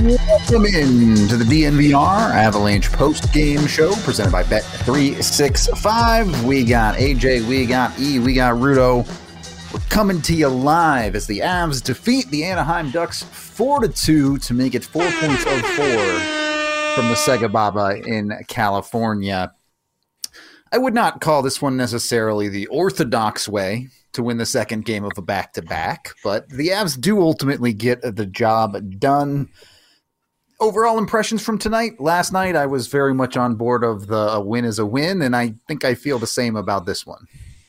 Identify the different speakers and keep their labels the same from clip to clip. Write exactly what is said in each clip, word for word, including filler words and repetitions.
Speaker 1: Welcome in to the D N V R Avalanche post-game show presented by Bet three sixty-five. We got A J, we got E, we got Rudo. We're coming to you live as the Avs defeat the Anaheim Ducks four to two to make it four points of four from the Sega Baba in California. I would not call this one necessarily the orthodox way to win the second game of a back-to-back, but the Avs do ultimately get the job done. Overall impressions from tonight. Last night, I was very much on board of the a win is a win, and I think I feel the same about this one.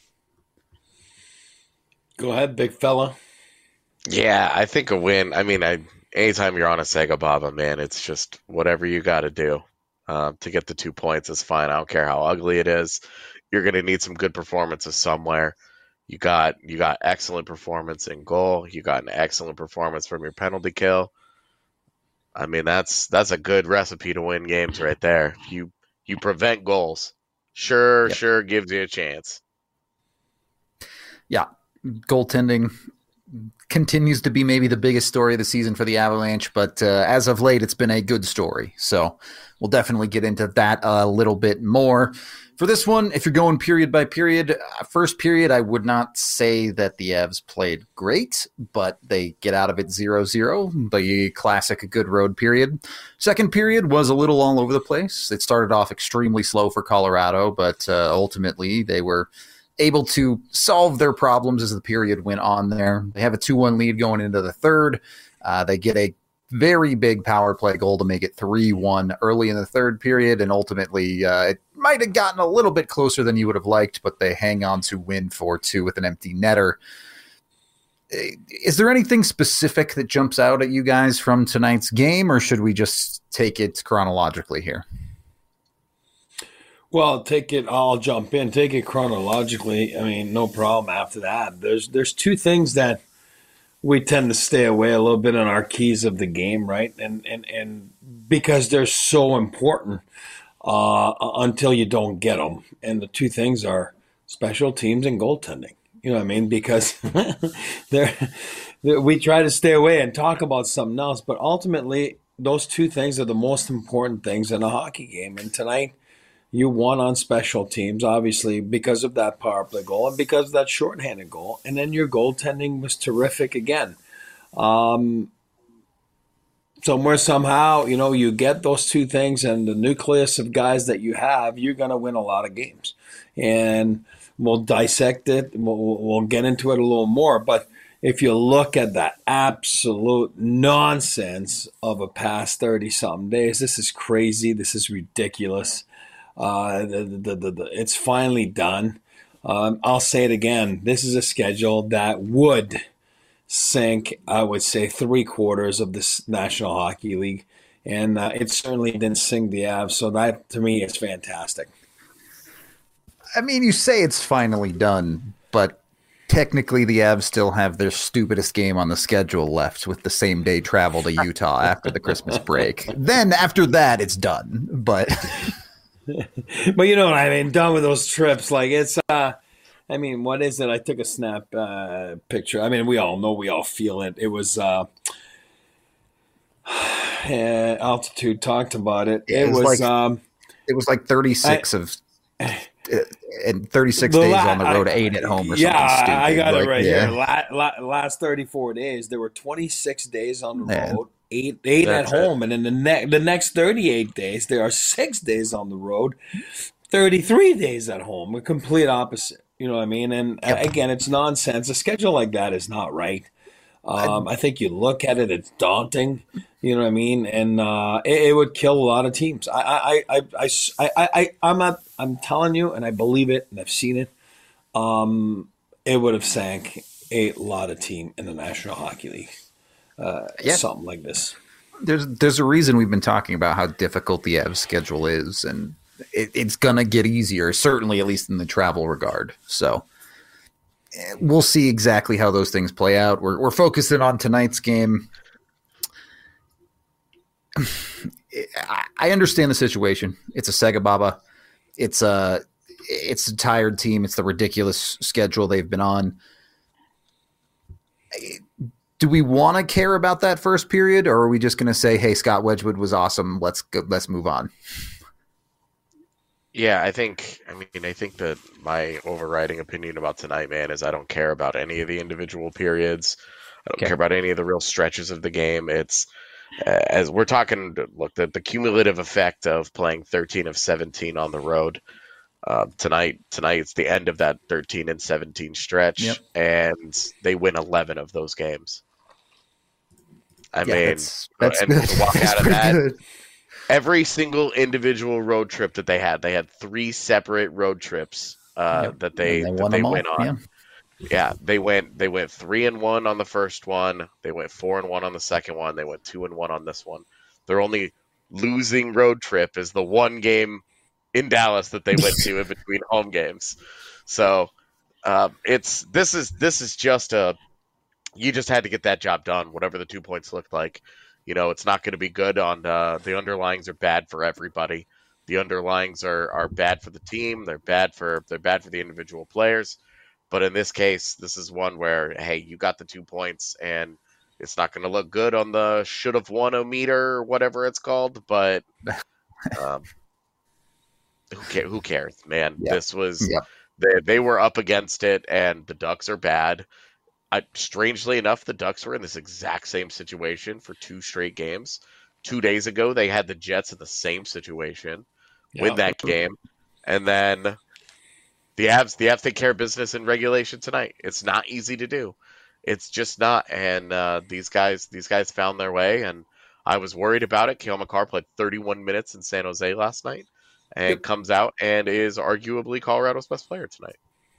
Speaker 2: Go ahead, big fella.
Speaker 3: Yeah, I think a win. I mean, I anytime you're on a Sega Baba, man, it's just whatever you got to do uh, to get the two points is fine. I don't care how ugly it is. You're going to need some good performances somewhere. You got you got excellent performance in goal. You got an excellent performance from your penalty kill. I mean, that's that's a good recipe to win games right there. You you prevent goals. Sure, yep. sure gives you a chance.
Speaker 1: Yeah, goaltending continues to be maybe the biggest story of the season for the Avalanche, but uh, as of late, it's been a good story. So we'll definitely get into that a little bit more. For this one, if you're going period by period, first period, I would not say that the Avs played great, but they get out of it zero zero, the classic good road period. Second period was a little all over the place. It started off extremely slow for Colorado, but uh, ultimately they were able to solve their problems as the period went on there. They have a two one lead going into the third. Uh, they get a very big power play goal to make it three one early in the third period, and ultimately uh, it might have gotten a little bit closer than you would have liked, but they hang on to win four two with an empty netter. Is there anything specific that jumps out at you guys from tonight's game, or should we just take it chronologically here?
Speaker 2: Well, take it. I'll jump in. Take it chronologically. I mean, no problem after that. There's there's two things that we tend to stay away a little bit on our keys of the game, right? And and and because they're so important uh, until you don't get them. And the two things are special teams and goaltending. You know what I mean? Because they're, they're, we try to stay away and talk about something else, but ultimately those two things are the most important things in a hockey game. And tonight, you won on special teams, obviously, because of that power play goal and because of that shorthanded goal. And then your goaltending was terrific again. Um, somewhere, somehow, you know, you get those two things and the nucleus of guys that you have, you're going to win a lot of games. And we'll dissect it. We'll, we'll get into it a little more. But if you look at that absolute nonsense of a past thirty-something days, this is crazy. This is ridiculous. Uh, the, the, the, the, it's finally done. Um, I'll say it again. This is a schedule that would sink, I would say, three quarters of this National Hockey League. And uh, it certainly didn't sink the Avs. So that, to me, is fantastic.
Speaker 1: I mean, you say it's finally done, but technically the Avs still have their stupidest game on the schedule left with the same day travel to Utah after the Christmas break. Then after that, it's done. But...
Speaker 2: But you know what I mean? Done with those trips. Like it's, uh, I mean, what is it? I took a snap uh, picture. I mean, we all know, we all feel it. It was uh, uh, Altitude talked about it. It, it was, was like, um,
Speaker 1: it was like thirty-six I, of, uh, and thirty-six days la- on the road, I, eight at home or
Speaker 2: yeah,
Speaker 1: something stupid.
Speaker 2: I got
Speaker 1: like,
Speaker 2: it right
Speaker 1: yeah.
Speaker 2: here. La- la- last thirty-four days, there were twenty-six days on the Man. road. Eight, eight at home, it. and then the next the next thirty-eight days, there are six days on the road, thirty-three days at home. A complete opposite, you know what I mean? And yep. again, it's nonsense. A schedule like that is not right. Um, I think you look at it; it's daunting. You know what I mean? And uh, it, it would kill a lot of teams. I, I, I, I, I, I, I'm not. I'm telling you, and I believe it, and I've seen it. Um, it would have sank a lot of team in the National Hockey League. Uh, yeah. Something like this.
Speaker 1: There's there's a reason we've been talking about how difficult the Avs schedule is, and it, it's gonna get easier, certainly at least in the travel regard. So we'll see exactly how those things play out. We're we're focusing on tonight's game. I understand the situation. It's a Sega Baba. It's a it's a tired team. It's the ridiculous schedule they've been on. do we want to care about that first period, or are we just going to say, hey, Scott Wedgwood was awesome, let's go, let's move on?
Speaker 3: Yeah, I think, I mean, I think that my overriding opinion about tonight, man, is I don't care about any of the individual periods. I don't
Speaker 1: Okay.
Speaker 3: care about any of the real stretches of the game. It's, uh, as we're talking, look, the, the cumulative effect of playing thirteen of seventeen on the road. Uh, tonight, tonight it's the end of that thirteen and seventeen stretch,
Speaker 1: Yep.
Speaker 3: and they win eleven of those games. I
Speaker 1: Yeah,
Speaker 3: mean,
Speaker 1: that's, that's
Speaker 3: and
Speaker 1: good.
Speaker 3: to walk
Speaker 1: That's
Speaker 3: out of
Speaker 1: pretty
Speaker 3: that,
Speaker 1: good.
Speaker 3: every single individual road trip that they had, they had three separate road trips uh,
Speaker 1: Yep.
Speaker 3: that they,
Speaker 1: And they
Speaker 3: that
Speaker 1: won
Speaker 3: they
Speaker 1: them all.
Speaker 3: went on.
Speaker 1: Yeah.
Speaker 3: Yeah, they went they went three and one on the first one. They went four and one on the second one. They went two and one on this one. Their only losing road trip is the one game in Dallas that they went to in between home games. So uh, it's this is this is just a you just had to get that job done, whatever the two points looked like. You know, it's not going to be good on uh, the underlyings are bad for everybody. The underlyings are are bad for the team. They're bad for they're bad for the individual players. But in this case, this is one where, hey, you got the two points, and it's not going to look good on the should have won a meter or whatever it's called. But um, who, ca- who cares, man?
Speaker 1: Yep.
Speaker 3: This was
Speaker 1: Yep.
Speaker 3: they, they were up against it, and the Ducks are bad. I, strangely enough, the Ducks were in this exact same situation for two straight games. Two days ago, they had the Jets in the same situation, win
Speaker 2: Yeah.
Speaker 3: that game, and then the Avs, the Avs take care of business in regulation tonight. It's not easy to do. It's just not. And uh, these guys, these guys found their way. And I was worried about it. Cale Makar played thirty-one minutes in San Jose last night, and
Speaker 1: Yep.
Speaker 3: comes out and is arguably Colorado's best player tonight.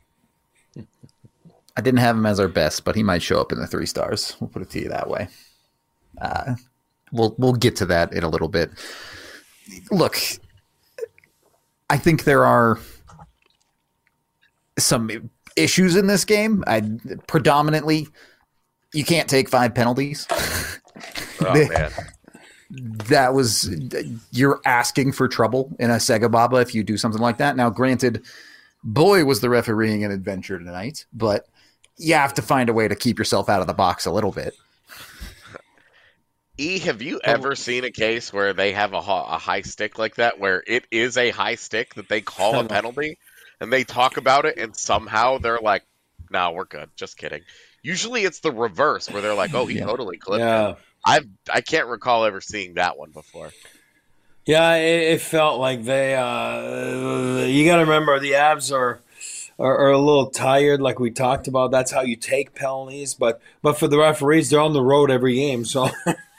Speaker 1: I didn't have him as our best, but he might show up in the three stars. We'll put it to you that way. Uh, we'll we'll get to that in a little bit. Look, I think there are some issues in this game. I predominantly, you can't take five penalties.
Speaker 3: Oh
Speaker 1: They-
Speaker 3: man,
Speaker 1: That was you're asking for trouble in a Sega Baba if you do something like that. Now, granted, boy was the refereeing an adventure tonight, but you have to find a way to keep yourself out of the box a little bit.
Speaker 3: E, have you ever seen a case where they have a, ho- a high stick like that, where it is a high stick that they call a penalty, and they talk about it, and somehow they're like, "No, we're good. Just kidding." Usually, it's the reverse, where they're like, "Oh, he
Speaker 1: Yeah.
Speaker 3: totally clipped
Speaker 2: Yeah.
Speaker 3: it." I've I can't recall ever seeing that one before.
Speaker 2: Yeah, it, it felt like they. Uh, you got to remember the Avs are, are are a little tired, like we talked about. That's how you take penalties, but but for the referees, they're on the road every game, so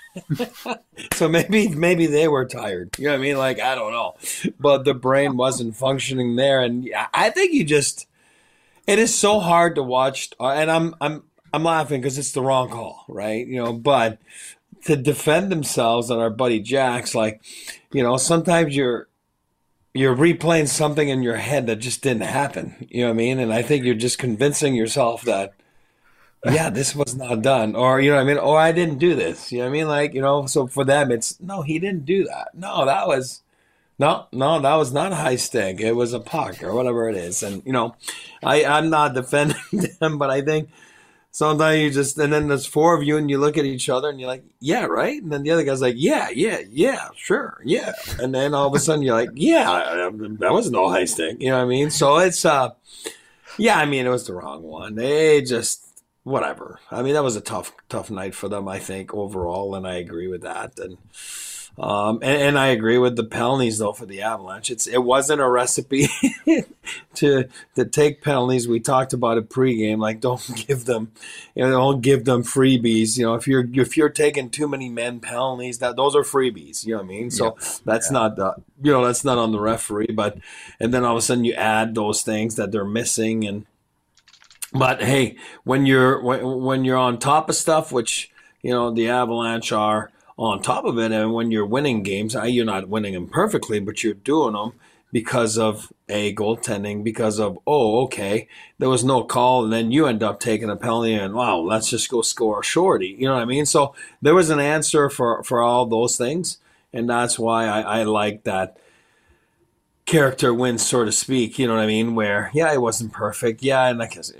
Speaker 2: so maybe maybe they were tired. You know what I mean? Like I don't know, but the brain wasn't functioning there, and yeah, I think you just. It is so hard to watch, uh, and I'm I'm I'm laughing because it's the wrong call, right? You know, but to defend themselves and our buddy Jack's like, you know, sometimes you're you're replaying something in your head that just didn't happen. You know what I mean? And I think you're just convincing yourself that, yeah, this was not done. Or, you know what I mean? Or I didn't do this. You know what I mean? Like, you know, so for them it's no, he didn't do that. No, that was no, no, that was not a high stick. It was a puck or whatever it is. And, you know, I, I'm not defending them, but I think sometimes you just, and then there's four of you and you look at each other and you're like, yeah, right? And then the other guy's like, yeah, yeah, yeah, sure, yeah. And then all of a sudden you're like, yeah, that was no high stick. You know what I mean? So it's, uh, yeah, I mean, it was the wrong one. They just, whatever. I mean, that was a tough, tough night for them, I think, overall, and I agree with that. And, Um, and, and I agree with the penalties though for the Avalanche. It's it wasn't a recipe to to take penalties. We talked about it pregame. Like don't give them, you know, don't give them freebies. You know, if you're if you're taking too many men penalties, that those are freebies. You know what I mean? So
Speaker 1: Yeah.
Speaker 2: that's
Speaker 1: Yeah.
Speaker 2: not the you know that's not on the referee. But and then all of a sudden you add those things that they're missing. And but hey, when you're when, when you're on top of stuff, which you know the Avalanche are on top of it, and when you're winning games, you're not winning them perfectly, but you're doing them because of a goaltending, because of, oh, okay, there was no call, and then you end up taking a penalty, and wow, let's just go score a shorty. You know what I mean? So there was an answer for, for all those things, and that's why I, I like that character win, so to speak. You know what I mean? Where, yeah, it wasn't perfect. Yeah, and I guess, you know,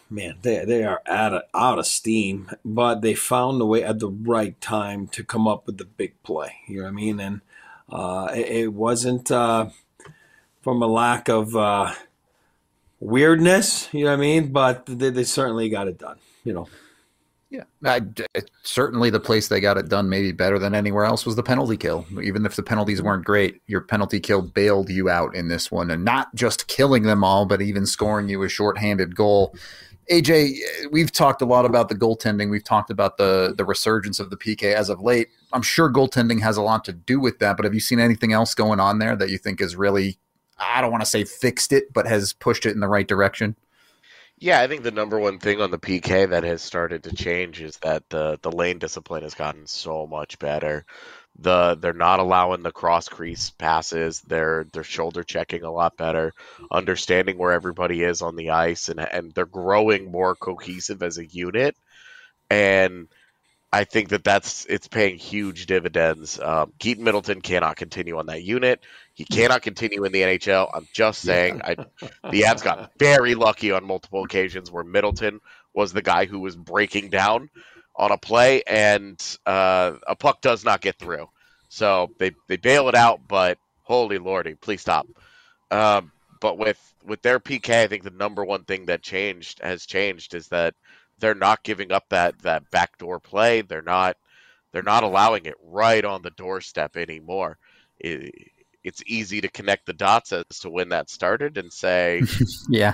Speaker 2: man, they they are out of, out of steam, but they found a way at the right time to come up with the big play. You know what I mean? And uh, it, it wasn't uh, from a lack of uh, weirdness, you know what I mean? But they, they certainly got it done, you know.
Speaker 1: Yeah, I, certainly the place they got it done maybe better than anywhere else was the penalty kill. Even if the penalties weren't great, your penalty kill bailed you out in this one, and not just killing them all, but even scoring you a shorthanded goal. A J, we've talked a lot about the goaltending. We've talked about the the resurgence of the P K as of late. I'm sure goaltending has a lot to do with that, but have you seen anything else going on there that you think is really, I don't want to say fixed it, but has pushed it in the right direction?
Speaker 3: Yeah, I think the number one thing on the P K that has started to change is that the the lane discipline has gotten so much better. The they're not allowing the cross crease passes. They're they're shoulder checking a lot better, understanding where everybody is on the ice, and and they're growing more cohesive as a unit. And I think that that's it's paying huge dividends. Um, Keaton Middleton cannot continue on that unit. He cannot continue in the N H L. I'm just saying. I, the Avs got very lucky on multiple occasions where Middleton was the guy who was breaking down on a play, and uh, a puck does not get through. So they, they bail it out, but holy lordy, please stop. Um, but with, with their P K, I think the number one thing that changed has changed is that they're not giving up that, that backdoor play. They're not they're not allowing it right on the doorstep anymore. It, it's easy to connect the dots as to when that started and say,
Speaker 1: yeah,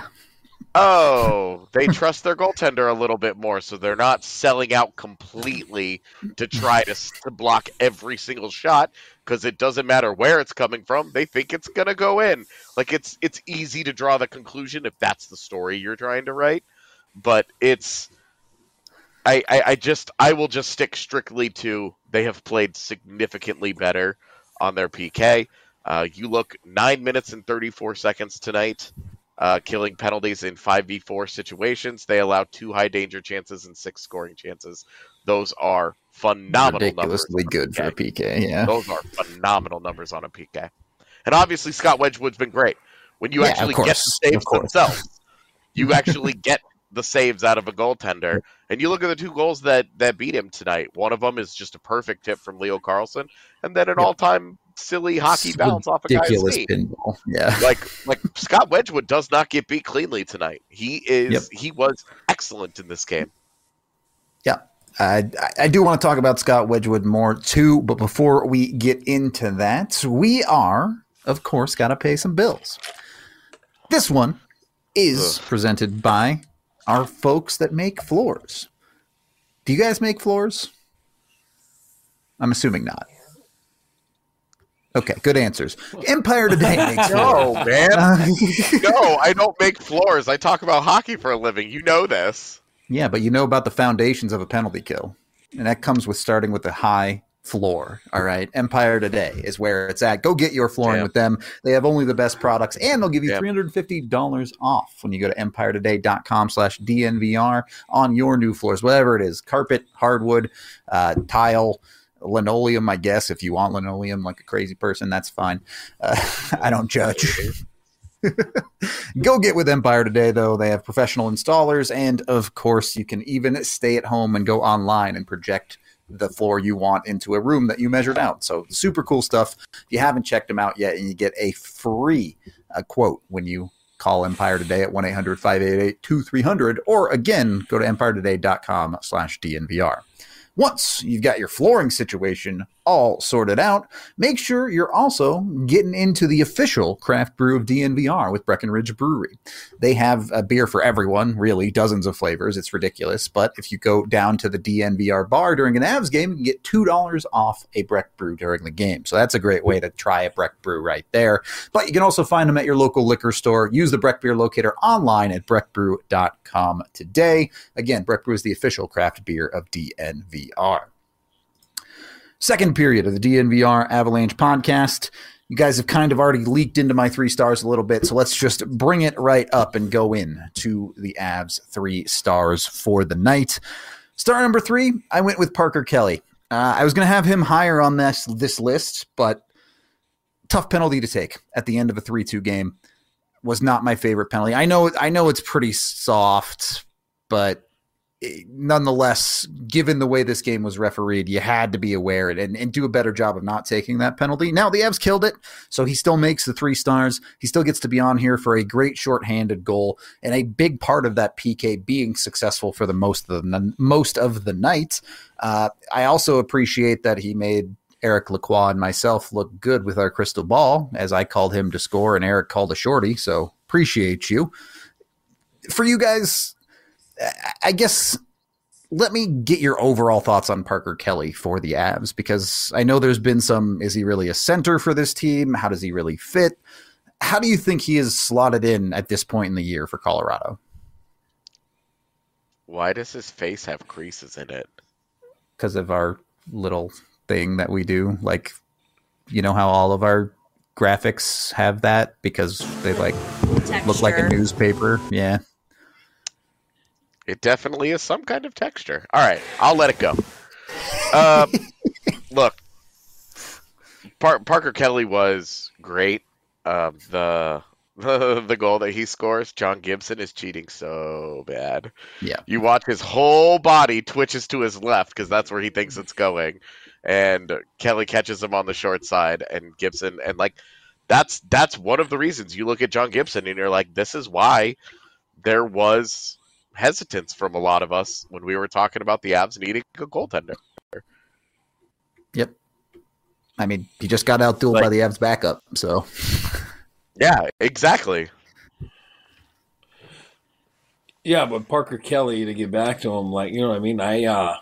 Speaker 3: oh, they trust their goaltender a little bit more, so they're not selling out completely to try to, to block every single shot because it doesn't matter where it's coming from. They think it's going to go in. Like, it's it's easy to draw the conclusion if that's the story you're trying to write, but it's I, I, I just I will just stick strictly to they have played significantly better on their P K. Uh, you look nine minutes and thirty-four seconds tonight, uh, killing penalties in five v four situations. They allowed two high danger chances and six scoring chances. Those are phenomenal
Speaker 1: ridiculously
Speaker 3: numbers.
Speaker 1: good for a P K. Yeah,
Speaker 3: those are phenomenal numbers on a P K. And obviously Scott Wedgwood's been great. When you
Speaker 1: yeah,
Speaker 3: actually get the saves themselves, you actually get the saves out of a goaltender. And you look at the two goals that, that beat him tonight. One of them is just a perfect tip from Leo Carlsson, and then an yep. all-time silly hockey it's bounce off a guy's knee.
Speaker 1: Pinball. Yeah,
Speaker 3: like like Scott Wedgwood does not get beat cleanly tonight. He is yep. he was excellent in this game.
Speaker 1: Yeah, I I do want to talk about Scott Wedgwood more too, but before we get into that, we are of course got to pay some bills. This one is Ugh. presented by our folks that make floors. Do you guys make floors? I'm assuming not. Okay, good answers. Empire Today makes
Speaker 3: floors.
Speaker 1: No,
Speaker 3: man. No, I don't make floors. I talk about hockey for a living. You know this.
Speaker 1: Yeah, but you know about the foundations of a penalty kill. And that comes with starting with a high floor. All right. Empire Today is where it's at. Go get your flooring Damn. with them. They have only the best products, and they'll give you Damn. three hundred fifty dollars off when you go to empire today dot com slash D N V R on your new floors, whatever it is, carpet, hardwood, uh, tile, linoleum, I guess. If you want linoleum like a crazy person, that's fine. Uh, I don't judge. Go get with Empire Today, though. They have professional installers, and of course, you can even stay at home and go online and project the floor you want into a room that you measured out. So super cool stuff. If you haven't checked them out yet, and you get a free uh, quote when you call Empire Today at one eight hundred five eight eight two three zero zero, or again, go to empire today dot com slash D N V R. Once you've got your flooring situation all sorted out, make sure you're also getting into the official craft brew of D N V R with Breckenridge Brewery. They have a beer for everyone, really, dozens of flavors. It's ridiculous. But if you go down to the D N V R bar during an Avs game, you can get two dollars off a Breck brew during the game. So that's a great way to try a Breck brew right there. But you can also find them at your local liquor store. Use the Breck Beer Locator online at breck brew dot com today. Again, Breck Brew is the official craft beer of D N V R. Second period of the D N V R Avalanche podcast. You guys have kind of already leaked into my three stars a little bit, so let's just bring it right up and go in to the Avs three stars for the night. Star number three, I went with Parker Kelly. Uh, I was going to have him higher on this, this list, but tough penalty to take at the end of a three two game. Was not my favorite penalty. I know I know it's pretty soft, but nonetheless, given the way this game was refereed, you had to be aware and, and do a better job of not taking that penalty. Now, the Avs killed it, so he still makes the three stars. He still gets to be on here for a great shorthanded goal, and a big part of that P K being successful for the most of the, most of the night. Uh, I also appreciate that he made Eric Lacroix and myself look good with our crystal ball, as I called him to score and Eric called a shorty, so appreciate you. For you guys, I guess let me get your overall thoughts on Parker Kelly for the Avs, because I know there's been some, is he really a center for this team? How does he really fit? How do you think he is slotted in at this point in the year for Colorado?
Speaker 3: Why does his face have creases in it?
Speaker 1: Because of our little thing that we do. Like, you know how all of our graphics have that because they like
Speaker 4: Texture.
Speaker 1: Look like a newspaper. Yeah.
Speaker 3: It definitely is some kind of texture. All right, I'll let it go. Uh, look, Par- Parker Kelly was great. Um, the, the the goal that he scores, John Gibson is cheating so bad.
Speaker 1: Yeah,
Speaker 3: you watch his whole body twitches to his left because that's where he thinks it's going, and Kelly catches him on the short side, and Gibson and like that's that's one of the reasons you look at John Gibson and you're like, this is why there was hesitance from a lot of us when we were talking about the Avs needing a goaltender.
Speaker 1: Yep. I mean, he just got outdueled like, by the Avs backup, so.
Speaker 3: Yeah, exactly.
Speaker 2: Yeah, but Parker Kelly, to get back to him, like, you know what I mean? I, uh,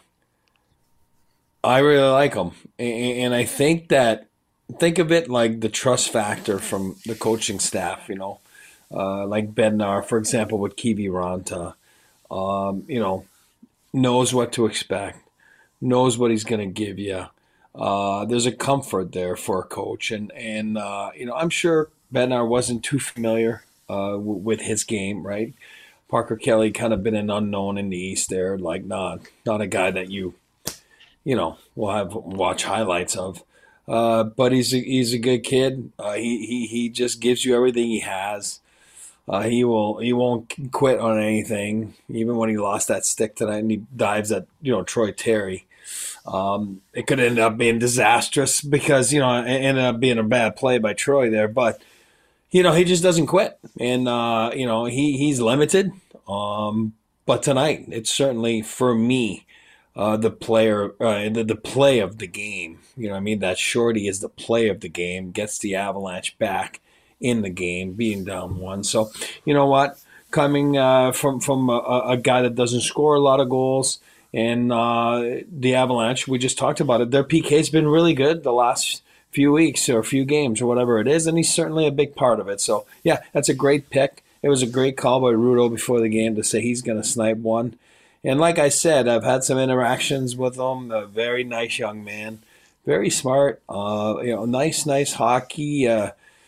Speaker 2: I really like him. And, and I think that, think of it like the trust factor from the coaching staff, you know, uh, like Bednar, for example, with Kiviranta. Um, you know, knows what to expect, knows what he's going to give you. Uh, there's a comfort there for a coach. And, and uh, you know, I'm sure Bednar wasn't too familiar uh, w- with his game, right? Parker Kelly kind of been an unknown in the East there, like not not a guy that you, you know, will have watch highlights of. Uh, but he's a, he's a good kid. Uh, he, he, he just gives you everything he has. Uh, he will. He won't quit on anything, even when he lost that stick tonight and he dives at you know Troy Terry. Um, it could end up being disastrous because you know it ended up being a bad play by Troy there. But you know he just doesn't quit, and uh, you know he he's limited. Um, but tonight, it's certainly for me uh, the player, uh, the the play of the game. You know, what I mean that shorty is the play of the game. Gets the Avalanche back in the game, being down one. So, you know what? Coming uh, from from a, a guy that doesn't score a lot of goals, and uh, the Avalanche, we just talked about it. Their P K's been really good the last few weeks or few games or whatever it is, and he's certainly a big part of it. So, yeah, that's a great pick. It was a great call by Rudo before the game to say he's going to snipe one. And like I said, I've had some interactions with him. A very nice young man, very smart. Uh, you know, nice, nice hockey. Uh,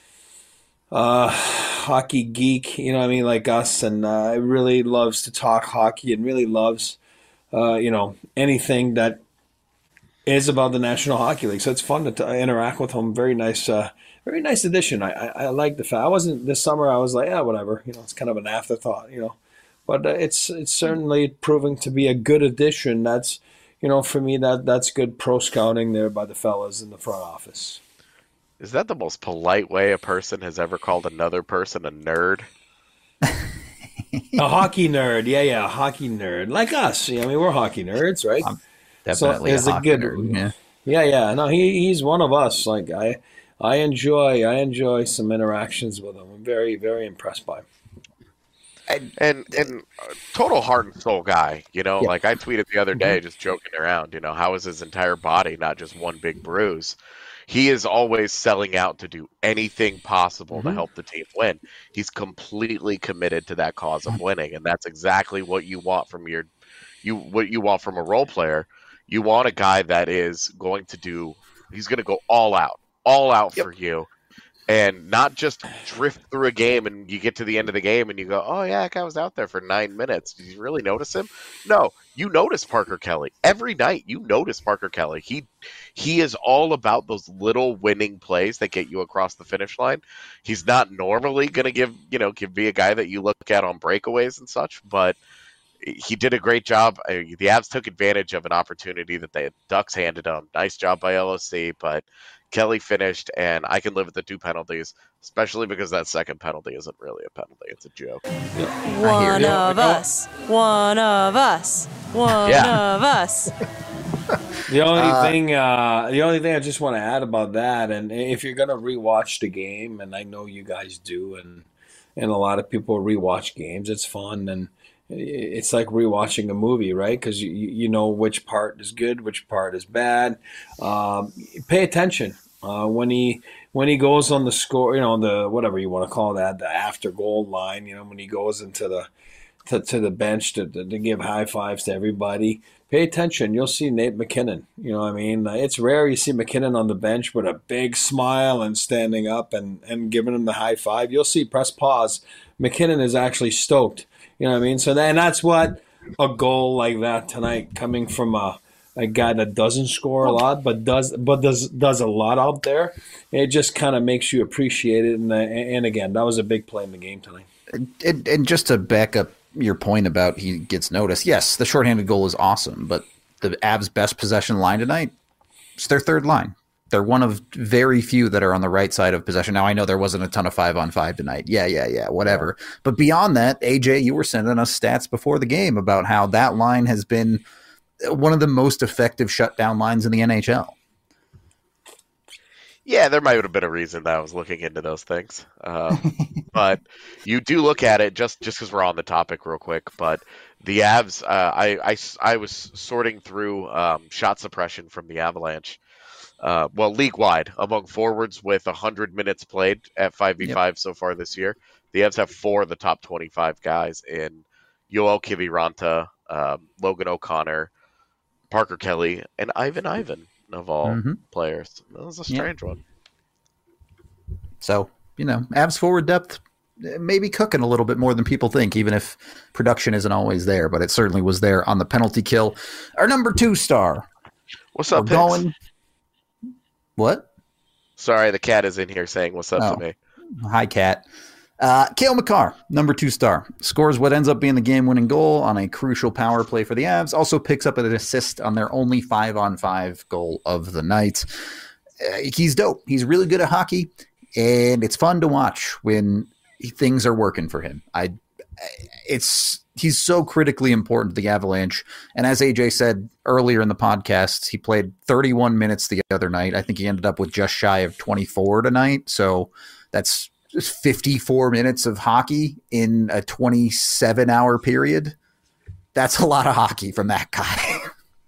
Speaker 2: uh hockey geek, you know what I mean, like us, and uh really loves to talk hockey and really loves uh you know anything that is about the National Hockey League. So it's fun to t- interact with him. Very nice uh very nice addition. I, I I like the fact I wasn't this summer I was like, yeah, whatever, you know, it's kind of an afterthought, you know. But uh, it's it's certainly proving to be a good addition. That's you know, for me that that's good pro scouting there by the fellas in the front office.
Speaker 3: Is that the most polite way a person has ever called another person a nerd?
Speaker 2: A hockey nerd, yeah, yeah, a hockey nerd, like us. Yeah, I mean, we're hockey nerds, right?
Speaker 1: I'm definitely
Speaker 2: so,
Speaker 1: a hockey
Speaker 2: good,
Speaker 1: nerd. Yeah,
Speaker 2: yeah, yeah. No, he he's one of us. Like I, I enjoy, I enjoy some interactions with him. I'm very, very impressed by him.
Speaker 3: And and, and uh, total heart and soul guy. You know,
Speaker 2: Yeah.
Speaker 3: like I tweeted the other day, just joking around. You know, how is his entire body not just one big bruise? He is always selling out to do anything possible
Speaker 2: Mm-hmm.
Speaker 3: to help the team win. He's completely committed to that cause of winning, and that's exactly what you want from your you what you want from a role player. You want a guy that is going to do. He's going to go all out, all out
Speaker 2: Yep.
Speaker 3: for you, and not just drift through a game and you get to the end of the game and you go, oh yeah, that guy was out there for nine minutes. Did you really notice him? No, you notice Parker Kelly every night. You notice Parker Kelly. He he is all about those little winning plays that get you across the finish line. He's not normally going to give you know give be a guy that you look at on breakaways and such, but he did a great job. Uh, The Avs took advantage of an opportunity that the Ducks handed them. Nice job by L O C, but Kelly finished, and I can live with the two penalties, especially because that second penalty isn't really a penalty. It's a joke.
Speaker 4: One of us. One of us. One
Speaker 3: Yeah.
Speaker 4: of us.
Speaker 2: The only
Speaker 1: Uh,
Speaker 2: thing, uh, the only thing I just want to add about that, and if you're gonna rewatch the game, and I know you guys do, and and a lot of people rewatch games, it's fun, and it's like rewatching a movie, right? Because you you know which part is good, which part is bad. Um, pay attention uh, when he when he goes on the score, you know, the whatever you want to call that, the after goal line. You know, when he goes into the to, to the bench to, to, to give high fives to everybody. Pay attention. You'll see Nate McKinnon. You know what I mean? It's rare you see McKinnon on the bench with a big smile and standing up and, and giving him the high five. You'll see press pause. McKinnon is actually stoked. You know what I mean? So then that's what a goal like that tonight coming from a, a guy that doesn't score a lot but does but does does a lot out there. It just kind of makes you appreciate it. And, and again, that was a big play in the game tonight.
Speaker 1: And, and just to back up your point about he gets noticed, yes, the shorthanded goal is awesome, but the Avs' best possession line tonight, it's their third line. They're one of very few that are on the right side of possession. Now, I know there wasn't a ton of five on five tonight. Yeah, yeah, yeah, whatever. Yeah. But beyond that, A J, you were sending us stats before the game about how that line has been one of the most effective shutdown lines in the N H L.
Speaker 3: Yeah, there might have been a reason that I was looking into those things. Uh, but you do look at it, just just because we're on the topic real quick, but the Avs, uh, I, I, I was sorting through um, shot suppression from the Avalanche, uh, well, league-wide, among forwards with one hundred minutes played at five v five yep. so far this year. The Avs have four of the top twenty-five guys in Yoel Kiviranta, um, Logan O'Connor, Parker Kelly, and Ivan Ivan. Of all mm-hmm. players. That was a strange yeah. one.
Speaker 1: So, you know, Avs forward depth may be cooking a little bit more than people think, even if production isn't always there, but it certainly was there on the penalty kill. Our number two star.
Speaker 3: What's up,
Speaker 1: We're going... What?
Speaker 3: Sorry, the cat is in here saying what's up oh. to me.
Speaker 1: Hi, cat. Uh, Cale Makar, number two star, scores what ends up being the game-winning goal on a crucial power play for the Avs. Also picks up an assist on their only five-on-five goal of the night. Uh, he's dope. He's really good at hockey, and it's fun to watch when things are working for him. I, it's he's so critically important to the Avalanche. And as A J said earlier in the podcast, he played thirty-one minutes the other night. I think he ended up with just shy of twenty-four tonight. So that's fifty-four minutes of hockey in a twenty-seven hour period. That's a lot of hockey from that guy.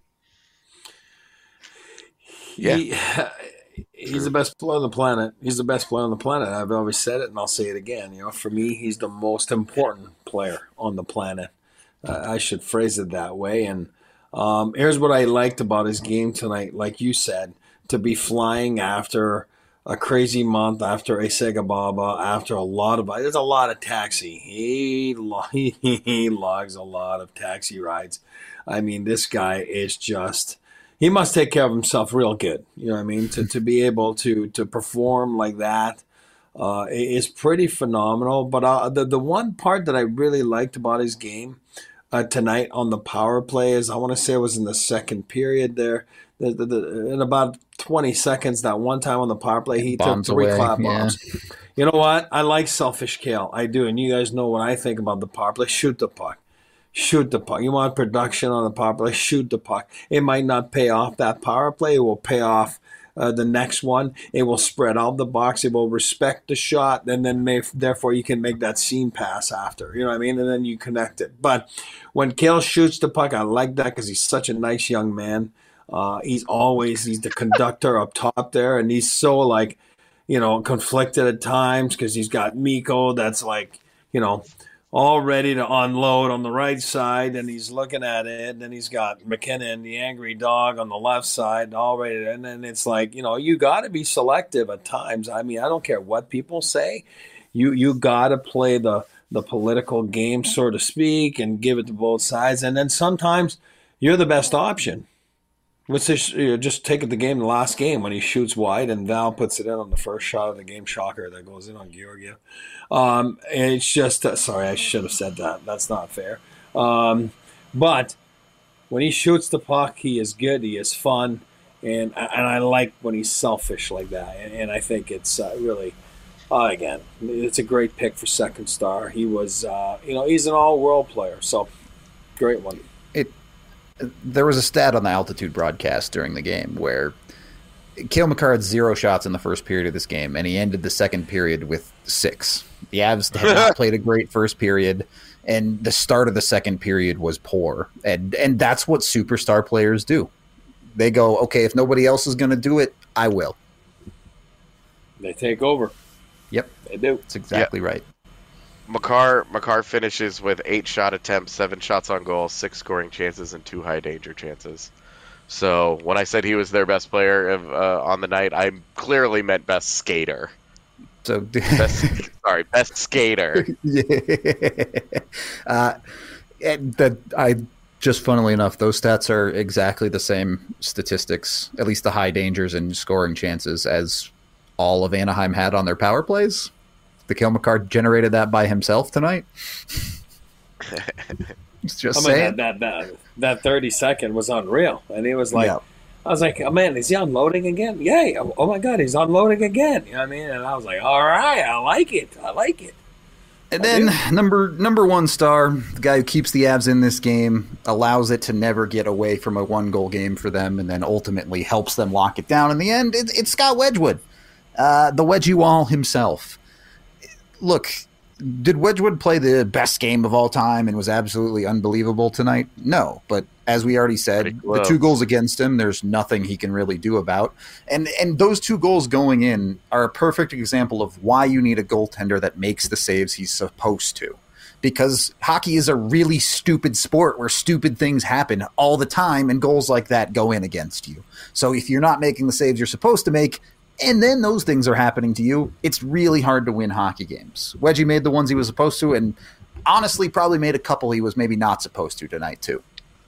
Speaker 2: yeah. He, he's the best player on the planet. He's the best player on the planet. I've always said it and I'll say it again. You know, for me, he's the most important player on the planet. Uh, I should phrase it that way. And um, here's what I liked about his game tonight. Like you said, to be flying after a crazy month, after a Segababa, after a lot of, there's a lot of taxi. He, he, he logs a lot of taxi rides. I mean, this guy is just, he must take care of himself real good. You know what I mean? To to be able to to perform like that uh, is pretty phenomenal. But uh, the, the one part that I really liked about his game uh, tonight on the power play is, I want to say it was in the second period there. The, the, the, in about twenty seconds, that one time on the power play, he bombs took three away. clap bombs. Yeah. You know what? I like selfish Cale. I do. And you guys know what I think about the power play. Shoot the puck. Shoot the puck. You want production on the power play? Shoot the puck. It might not pay off that power play. It will pay off uh, the next one. It will spread out the box. It will respect the shot. And then may, therefore you can make that seam pass after. You know what I mean? And then you connect it. But when Cale shoots the puck, I like that because he's such a nice young man. Uh, he's always, he's the conductor up top there, and he's so, like, you know, conflicted at times because he's got Mikko that's, like, you know, all ready to unload on the right side, and he's looking at it, and then he's got McKinnon, the angry dog, on the left side, all ready to, and then it's like, you know, you got to be selective at times. I mean, I don't care what people say. You you got to play the, the political game, so to speak, and give it to both sides, and then sometimes you're the best option. Let's just, you know, just take it the game, the last game, when he shoots wide and Val puts it in on the first shot of the game, shocker, that goes in on Georgiev. Um, it's just, uh, sorry, I should have said that. That's not fair. Um, But when he shoots the puck, he is good. He is fun, and and I like when he's selfish like that. And, and I think it's uh, really, uh, again, it's a great pick for second star. He was, uh, you know, he's an all-world player, so great one.
Speaker 1: It. There was a stat on the altitude broadcast during the game where Cale Makar had zero shots in the first period of this game, and he ended the second period with six. The Avs had not played a great first period, and the start of the second period was poor. And and that's what superstar players do. They go, okay, if nobody else is going to do it, I will.
Speaker 2: They take over.
Speaker 1: Yep.
Speaker 2: They do.
Speaker 1: That's exactly
Speaker 3: yep.
Speaker 1: right.
Speaker 3: Makar Makar finishes with eight shot attempts, seven shots on goal, six scoring chances, and two high danger chances. So when I said he was their best player of, uh, on the night, I clearly meant best skater.
Speaker 1: So
Speaker 3: best, sorry, best skater.
Speaker 1: Yeah. Uh, and that I just funnily enough, those stats are exactly the same statistics, at least the high dangers and scoring chances, as all of Anaheim had on their power plays. The Cale Makar generated that by himself tonight. Just
Speaker 2: I mean,
Speaker 1: saying.
Speaker 2: that, that that that thirty second was unreal, and he was like,
Speaker 1: Yeah.
Speaker 2: I was like, oh man, is he unloading again? Yay! Oh, oh my God, he's unloading again. You know what I mean? And I was like, all right, I like it, I like it.
Speaker 1: And then number number one star, the guy who keeps the Avs in this game, allows it to never get away from a one goal game for them, and then ultimately helps them lock it down in the end. It, it's Scott Wedgwood, uh, the Wedgie Wall himself. Look, did Wedgwood play the best game of all time and was absolutely unbelievable tonight? No, but as we already said, the two goals against him, there's nothing he can really do about. And and those two goals going in are a perfect example of why you need a goaltender that makes the saves he's supposed to. Because hockey is a really stupid sport where stupid things happen all the time and goals like that go in against you. So if you're not making the saves you're supposed to make, and then those things are happening to you, it's really hard to win hockey games. Wedgie made the ones he was supposed to, and honestly probably made a couple he was maybe not supposed to tonight too.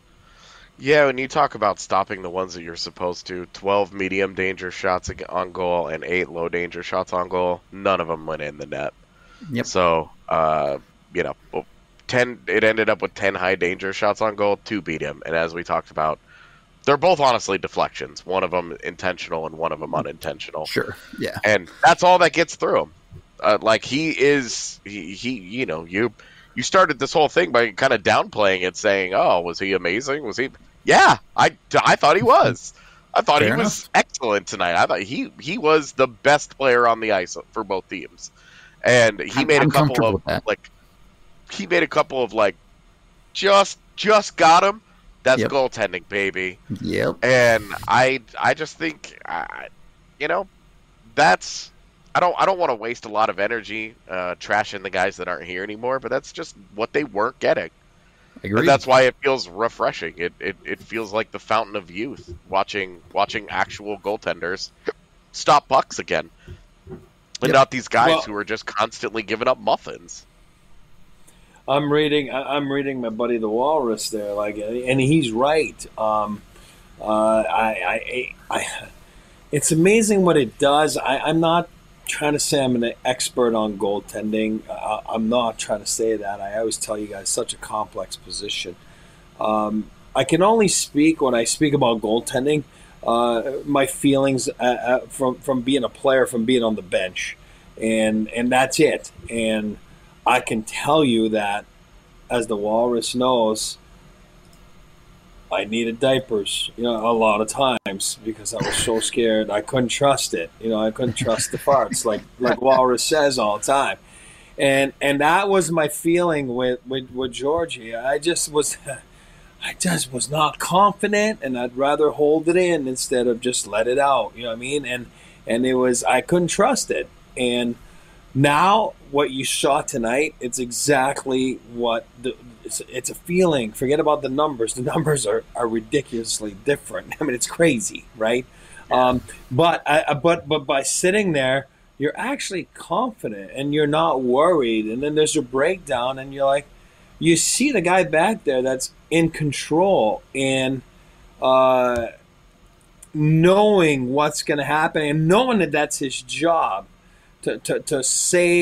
Speaker 3: Yeah, when you talk about stopping the ones that you're supposed to, twelve medium danger shots on goal and eight low danger shots on goal, none of them went in the net.
Speaker 1: Yep.
Speaker 3: So, uh, you know, ten. It ended up with ten high danger shots on goal, two beat him. And as we talked about, they're both honestly deflections. One of them intentional and one of them unintentional.
Speaker 1: Sure, yeah.
Speaker 3: And that's all that gets through him. Uh, like he is, he, he, you know, you you started this whole thing by kind of downplaying it, saying, "Oh, was he amazing? Was he?" Yeah, I, I thought he was. I thought
Speaker 1: Fair
Speaker 3: he was
Speaker 1: enough.
Speaker 3: excellent tonight. I thought he he was the best player on the ice for both teams, and he
Speaker 1: I'm-
Speaker 3: made
Speaker 1: I'm
Speaker 3: a couple
Speaker 1: comfortable
Speaker 3: of
Speaker 1: with that.
Speaker 3: like he made a couple of like just just got him. That's
Speaker 1: Yep.
Speaker 3: goaltending, baby.
Speaker 1: Yep.
Speaker 3: And I I just think I, you know that's I don't I don't want to waste a lot of energy uh, trashing the guys that aren't here anymore, but that's just what they weren't getting.
Speaker 1: Agreed.
Speaker 3: And that's why it feels refreshing. It, it it feels like the fountain of youth watching watching actual goaltenders stop pucks again, and
Speaker 1: Yep.
Speaker 3: not these guys
Speaker 2: Well-
Speaker 3: who are just constantly giving up muffins.
Speaker 2: I'm reading. I- I'm reading my buddy the Walrus there, like, and he's right. Um, uh, I, I, I, it's amazing what it does. I, I'm not trying to say I'm an expert on goaltending. Uh, I'm not trying to say that. I always tell you guys, such a complex position. Um, I can only speak when I speak about goaltending. Uh, my feelings uh, uh, from from being a player, from being on the bench, and and that's it. And I can tell you that, as the Walrus knows, I needed diapers, you know, a lot of times because I was so scared. I couldn't trust it. You know, I couldn't trust the farts, like like Walrus says all the time. And and that was my feeling with, with, with Georgie. I just was I just was not confident, and I'd rather hold it in instead of just let it out. You know what I mean? And and it was I couldn't trust it. And now, what you saw tonight, it's exactly what the, it's, it's a feeling. Forget about the numbers. The numbers are, are ridiculously different. I mean, it's crazy, right? Um, but I, but but by sitting there, you're actually confident and you're not worried. And then there's a breakdown, and you're like, you see the guy back there that's in control and uh, knowing what's going to happen and knowing that that's his job. To, to, to save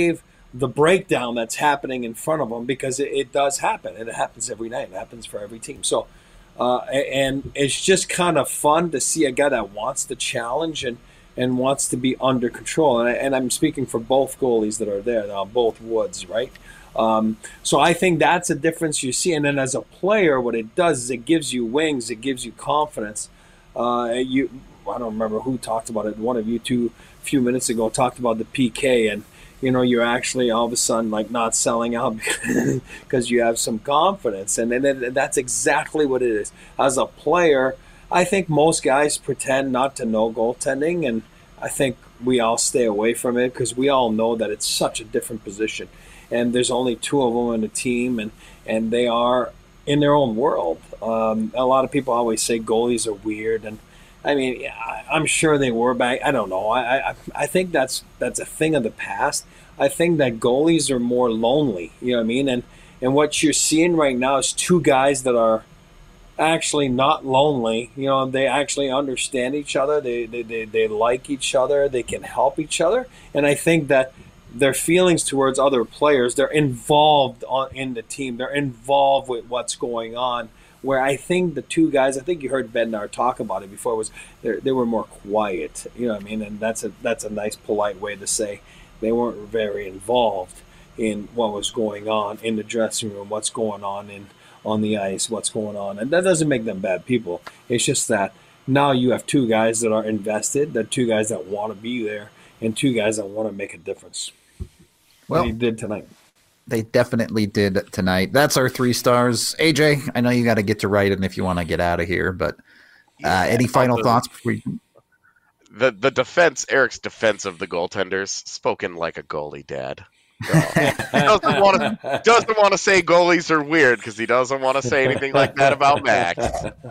Speaker 2: the breakdown that's happening in front of them, because it, it does happen, and it happens every night. It happens for every team. So, uh, and it's just kind of fun to see a guy that wants the challenge and, and wants to be under control. And, I, and I'm speaking for both goalies that are there now, both Woods, right? Um, so I think that's a difference you see. And then as a player, what it does is it gives you wings, it gives you confidence. Uh, you, I don't remember who talked about it. One of you two, a few minutes ago, talked about the P K, and you know, you're actually all of a sudden like not selling out because you have some confidence. And then that's exactly what it is. As a player, I think most guys pretend not to know goaltending, and I think we all stay away from it because we all know that it's such a different position. And there's only two of them in the team, and, and they are in their own world. Um, a lot of people always say goalies are weird, and I mean, I'm sure they were back. I don't know. I, I I think that's that's a thing of the past. I think that goalies are more lonely. You know what I mean? And and what you're seeing right now is two guys that are actually not lonely. You know, they actually understand each other. They they they, they like each other. They can help each other. And I think that their feelings towards other players, they're involved on, in the team. They're involved with what's going on. Where I think the two guys, I think you heard Bednar talk about it before, was they were more quiet. You know what I mean? And that's a that's a nice, polite way to say they weren't very involved in what was going on in the dressing room, what's going on in on the ice, what's going on. And that doesn't make them bad people. It's just that now you have two guys that are invested, that two guys that want to be there, and two guys that want to make a difference.
Speaker 1: Well,
Speaker 2: he did tonight.
Speaker 1: They definitely did tonight. That's our three stars. A J, I know you got to get to writing if you want to get out of here, but uh, yeah, any final the, thoughts before you...
Speaker 3: The the defense, Eric's defense of the goaltenders, spoken like a goalie dad. So, he doesn't want to doesn't want to say goalies are weird because he doesn't want to say anything like that about Max.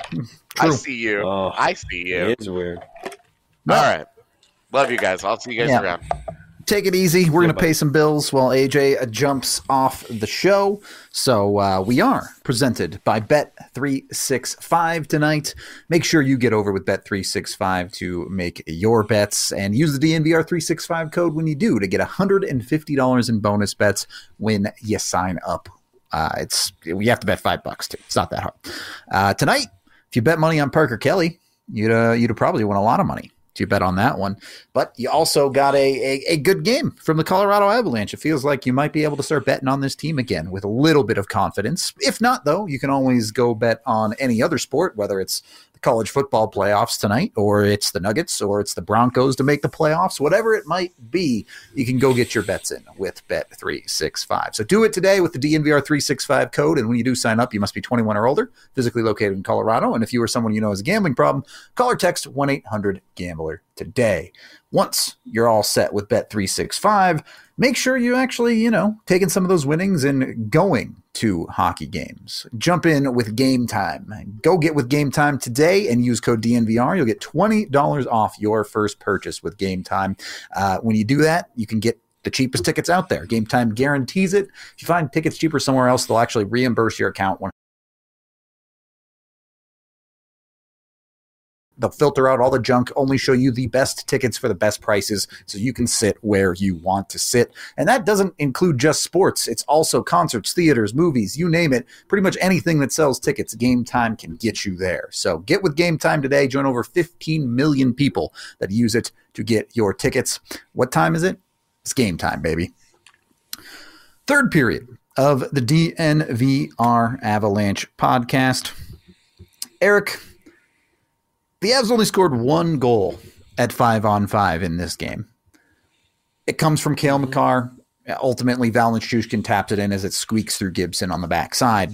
Speaker 3: I see you. Oh, I see you.
Speaker 2: It is weird.
Speaker 3: All right. Love you guys. I'll see you guys yeah. around.
Speaker 1: Take it easy. We're going to pay some bills while A J jumps off the show. So uh, we are presented by Bet three sixty-five tonight. Make sure you get over with Bet three sixty-five to make your bets and use the D N V R three sixty-five code when you do to get one hundred fifty dollars in bonus bets when you sign up. Uh, it's you have to bet five bucks too. It's not that hard. Uh, tonight, if you bet money on Parker Kelly, you'd uh, you'd probably win a lot of money. You bet on that one. But you also got a, a, a good game from the Colorado Avalanche. It feels like you might be able to start betting on this team again with a little bit of confidence. If not, though, you can always go bet on any other sport, whether it's the college football playoffs tonight, or it's the Nuggets, or it's the Broncos to make the playoffs. Whatever it might be, you can go get your bets in with Bet three sixty-five. So do it today with the D N V R three sixty-five code, and when you do sign up, you must be twenty-one or older, physically located in Colorado, and if you or someone you know has a gambling problem, call or text one eight hundred gambler today. Once you're all set with Bet three sixty-five, make sure you actually, you know, taking some of those winnings and going to hockey games. Jump in with Game Time. Go get with Game Time today and use code D N V R. You'll get twenty dollars off your first purchase with Game Time. Uh, when you do that, you can get the cheapest tickets out there. Game Time guarantees it. If you find tickets cheaper somewhere else, they'll actually reimburse your account. They'll filter out all the junk, only show you the best tickets for the best prices so you can sit where you want to sit. And that doesn't include just sports. It's also concerts, theaters, movies, you name it. Pretty much anything that sells tickets, Game Time can get you there. So get with Game Time today. Join over fifteen million people that use it to get your tickets. What time is it? It's game time, baby. Third period of the D N V R Avalanche podcast. Eric, the Avs only scored one goal at five on five in this game. It comes from Cale Makar. Ultimately, Val Nichushkin taps it in as it squeaks through Gibson on the backside.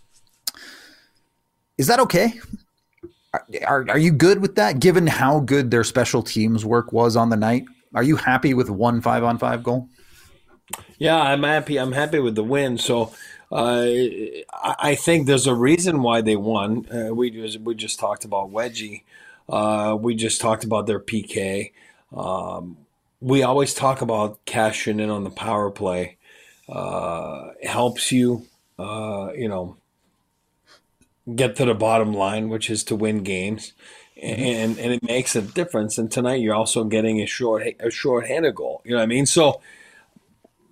Speaker 1: Is that okay? Are, are, are you good with that, given how good their special teams work was on the night? Are you happy with one five on five goal?
Speaker 2: Yeah, I'm happy. I'm happy with the win. So uh, I think there's a reason why they won. Uh, we just we just talked about Wedgie. Uh, we just talked about their P K. Um, we always talk about cashing in on the power play. Uh, it helps you, uh, you know, get to the bottom line, which is to win games. And and it makes a difference. And tonight you're also getting a short a short-handed goal. You know what I mean? So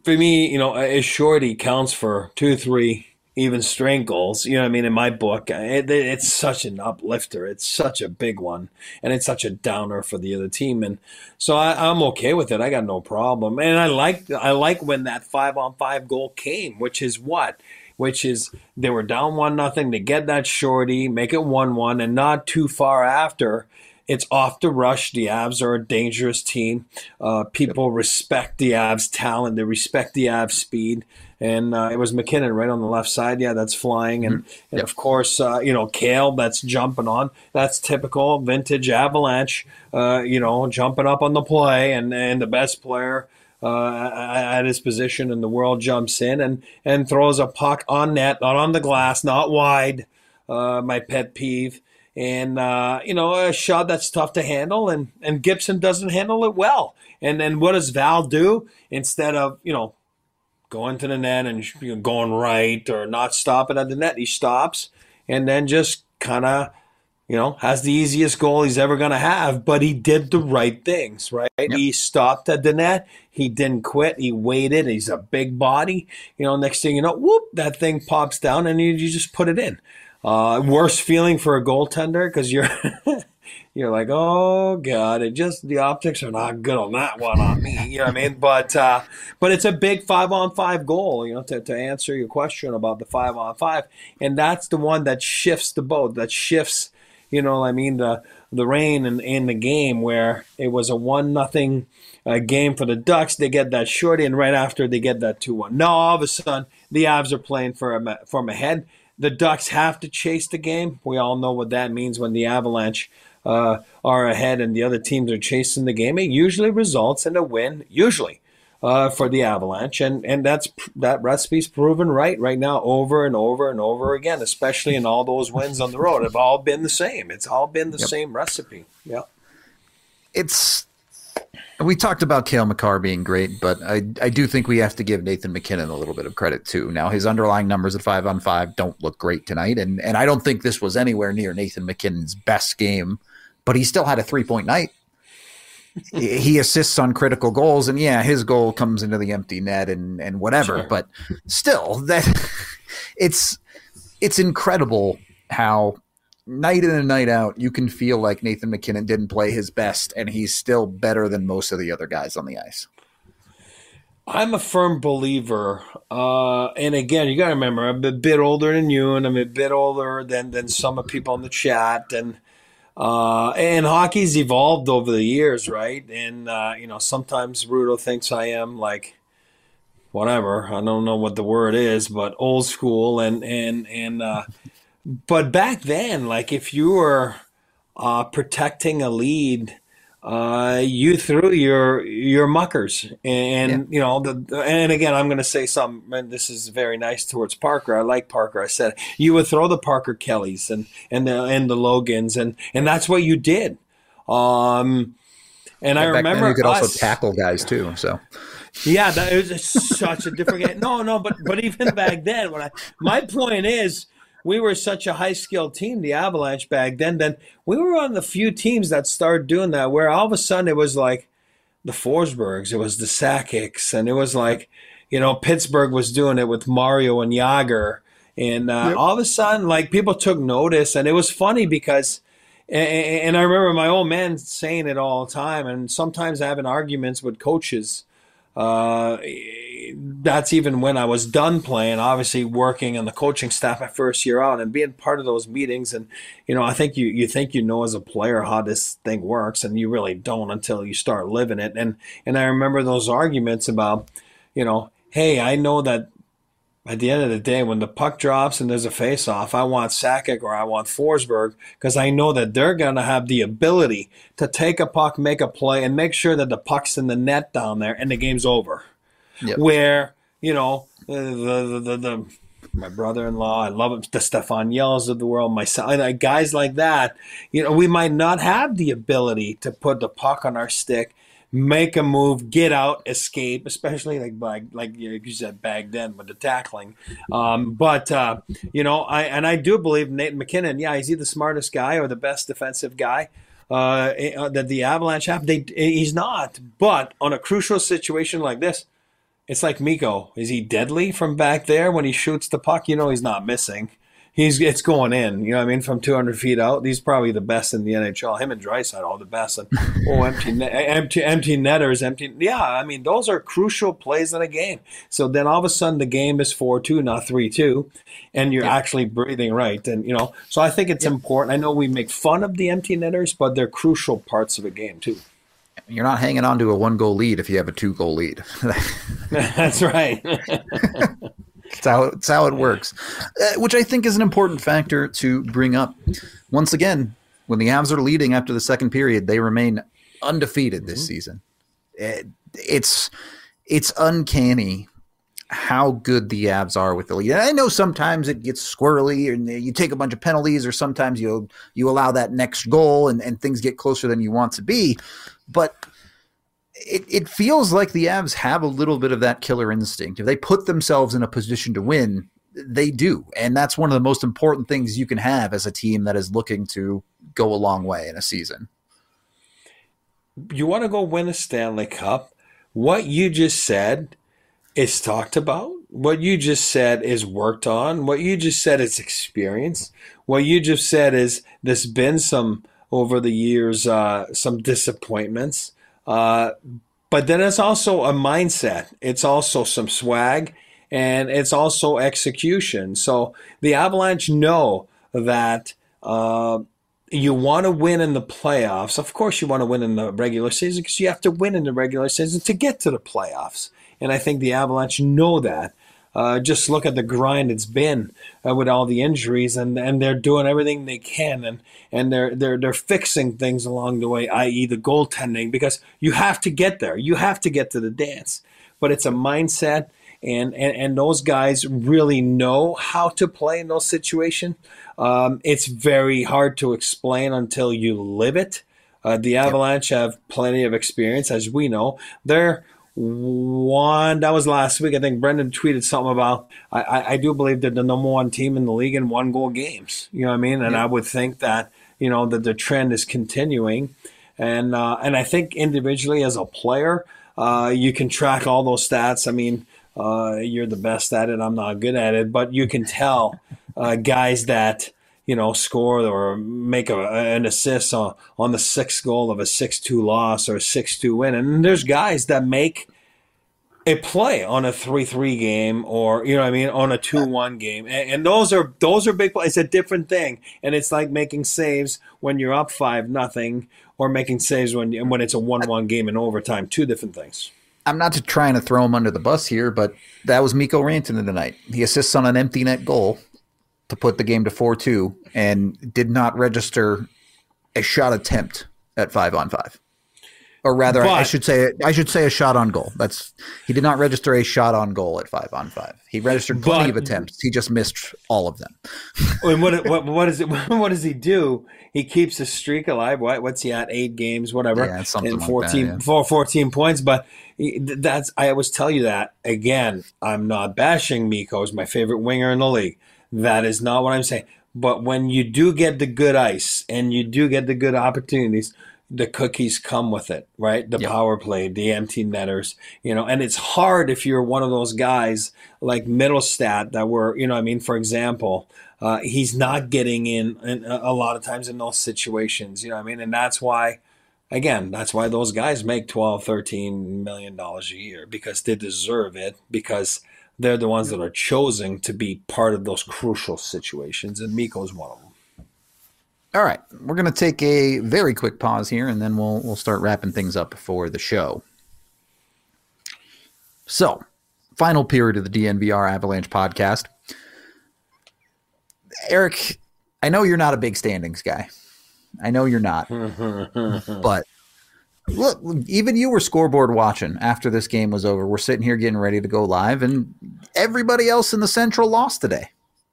Speaker 2: for me, you know, a shorty counts for two, three even strength goals. You know what I mean? In my book, it, it's such an uplifter. It's such a big one, and it's such a downer for the other team. And so I, I'm okay with it. I got no problem. And I like I like when that five on five goal came, which is what, which is they were down one nothing. They get that shorty, make it one one, and not too far after, it's off the rush. The Avs are a dangerous team. Uh, people respect the Avs' talent. They respect the Avs' speed. And uh, it was McKinnon right on the left side. Yeah, that's flying. And, mm-hmm. and yep. of course, uh, you know, Kale, that's jumping on. That's typical vintage Avalanche, uh, you know, jumping up on the play. And, and the best player uh, at his position in the world jumps in and, and throws a puck on net, not on the glass, not wide, uh, my pet peeve. And, uh, you know, a shot that's tough to handle. And, and Gibson doesn't handle it well. And then what does Val do? Instead of, you know, going to the net and you know, going right or not stopping at the net, he stops and then just kind of, you know, has the easiest goal he's ever going to have. But he did the right things, right? Yep. He stopped at the net. He didn't quit. He waited. He's a big body. You know, next thing you know, whoop, that thing pops down and you, you just put it in. Uh, worst feeling for a goaltender because you're you're like, oh God, it just the optics are not good on that one on me. You know what I mean? But uh, but it's a big five on five goal. You know, to to answer your question about the five on five, and that's the one that shifts the boat. That shifts, you know, I mean the the rain in, in the game where it was a one nothing uh, game for the Ducks. They get that shorty, and right after they get that two one. Now all of a sudden the Avs are playing for a, from ahead. The Ducks have to chase the game. We all know what that means when the Avalanche uh, are ahead and the other teams are chasing the game. It usually results in a win, usually, uh, for the Avalanche. And and that's that recipe's proven right right now over and over and over again, especially in all those wins on the road. Have all been the same. It's all been the yep. same recipe. Yeah.
Speaker 1: It's we talked about Cale Makar being great, but I I do think we have to give Nathan MacKinnon a little bit of credit too. Now his underlying numbers at five on five don't look great tonight, and and I don't think this was anywhere near Nathan MacKinnon's best game, but he still had a three point night. He assists on critical goals, and yeah, his goal comes into the empty net and and whatever, sure. But still, that it's it's incredible how night in and night out, you can feel like Nathan MacKinnon didn't play his best, and he's still better than most of the other guys on the ice.
Speaker 2: I'm a firm believer, uh, and again, you got to remember, I'm a bit older than you, and I'm a bit older than than some of people in the chat, and uh, and hockey's evolved over the years, right? And uh, you know, sometimes Rudo thinks I am like whatever. I don't know what the word is, but old school, and and and. Uh, But back then, like if you were uh, protecting a lead, uh, you threw your your muckers, and yeah. you know the. And again, I'm going to say something. And this is very nice towards Parker. I like Parker. I said you would throw the Parker Kellys and and the and the Logans, and and that's what you did. Um, and yeah, I remember
Speaker 1: you could
Speaker 2: us,
Speaker 1: also tackle guys too. So.
Speaker 2: Yeah, that was such a different game. No, no, but but even back then, when I my point is. We were such a high-skilled team, the Avalanche back then. Then we were one of the few teams that started doing that, where all of a sudden it was like the Forsbergs, it was the Sakic's, and it was like, you know, Pittsburgh was doing it with Mario and Yager. And uh, yep. all of a sudden, like, people took notice. And it was funny because, and, and I remember my old man saying it all the time, and sometimes having arguments with coaches. Uh, that's even when I was done playing, obviously working on the coaching staff my first year out and being part of those meetings. And, you know, I think you, you think you know as a player how this thing works, and you really don't until you start living it. And, and I remember those arguments about, you know, hey, I know that at the end of the day, when the puck drops and there's a face-off, I want Sakic or I want Forsberg because I know that they're going to have the ability to take a puck, make a play, and make sure that the puck's in the net down there and the game's over. Yep. Where, you know, the, the, the, the my brother-in-law, I love it, the Stefan Yells of the world, my son, guys like that, you know, we might not have the ability to put the puck on our stick, make a move, get out, escape, especially like like, like you said back then with the tackling. Um, but, uh, you know, I and I do believe Nathan MacKinnon, yeah, is he the smartest guy or the best defensive guy uh, that the Avalanche have? They, he's not. But on a crucial situation like this, it's like Mikko. Is he deadly from back there when he shoots the puck? You know he's not missing. He's it's going in. You know what I mean? From two hundred feet out, he's probably the best in the N H L. Him and Draisaitl are the best. And oh, empty, net, empty, empty netters, empty. Yeah, I mean those are crucial plays in a game. So then all of a sudden the game is four two, not three two, and you're yeah. actually breathing right. And you know, so I think it's yeah. important. I know we make fun of the empty netters, but they're crucial parts of a game too.
Speaker 1: You're not hanging on to a one-goal lead if you have a two-goal lead.
Speaker 2: That's right.
Speaker 1: It's how, it's how it works, uh, which I think is an important factor to bring up. Once again, when the Avs are leading after the second period, they remain undefeated this mm-hmm. season. It, it's it's uncanny how good the Avs are with the lead. And I know sometimes it gets squirrely and you take a bunch of penalties, or sometimes you you allow that next goal and, and things get closer than you want to be. But it, it feels like the Avs have a little bit of that killer instinct. If they put themselves in a position to win, they do. And that's one of the most important things you can have as a team that is looking to go a long way in a season.
Speaker 2: You want to go win a Stanley Cup? What you just said is talked about. What you just said is worked on. What you just said is experience. What you just said is there's been some, over the years, uh, some disappointments. Uh, but then it's also a mindset. It's also some swag, and it's also execution. So the Avalanche know that uh, you want to win in the playoffs. Of course you want to win in the regular season because you have to win in the regular season to get to the playoffs. And I think the Avalanche know that. Uh, just look at the grind it's been uh, with all the injuries, and, and they're doing everything they can, and, and they're they're they're fixing things along the way, that is the goaltending, because you have to get there. You have to get to the dance. But it's a mindset, and, and, and those guys really know how to play in those situations. Um, it's very hard to explain until you live it. Uh, the Avalanche have plenty of experience, as we know. They're One that was last week. I think Brendan tweeted something about. I, I, I do believe they're the number one team in the league in one goal games. You know what I mean? And yeah. I would think that you know that the trend is continuing, and uh, and I think individually as a player, uh, you can track all those stats. I mean, uh, you're the best at it. I'm not good at it, but you can tell uh, guys that you know score or make a, an assist on, on the sixth goal of a six two loss or a six two win. And there's guys that make a play on a three three game, or you know what I mean, on a two one game. And, and those are those are big plays. It's a different thing. And it's like making saves when you're up five nothing, or making saves when when it's a one one game in overtime. Two different things.
Speaker 1: I'm not trying to throw him under the bus here, but that was Mikko Rantanen tonight. He assists on an empty net goal to put the game to four two, and did not register a shot attempt at five on five. Or rather, but, I should say I should say a shot on goal. That's he did not register a shot on goal at five on five. He registered plenty but, of attempts. He just missed all of them.
Speaker 2: And what what what is it? What does he do? He keeps his streak alive. What what's he at? Eight games, whatever.
Speaker 1: Yeah, something
Speaker 2: and
Speaker 1: fourteen, like
Speaker 2: that, yeah. fourteen points. But he, that's I always tell you that again. I'm not bashing Mikko. He's my favorite winger in the league. That is not what I'm saying. But when you do get the good ice and you do get the good opportunities, the cookies come with it, right? The yep. power play, the empty netters, you know, and it's hard if you're one of those guys like Middlestat that were, you know what I mean? For example, uh, he's not getting in, in a lot of times in those situations, you know what I mean? And that's why, again, that's why those guys make twelve, thirteen million dollars a year, because they deserve it, because they're the ones that are chosen to be part of those crucial situations, and Mikko's one of them.
Speaker 1: All right, we're going to take a very quick pause here, and then we'll we'll start wrapping things up for the show. So, final period of the D N V R Avalanche podcast. Eric, I know you're not a big standings guy. I know you're not, but look, even you were scoreboard watching after this game was over. We're sitting here getting ready to go live, and everybody else in the Central lost today.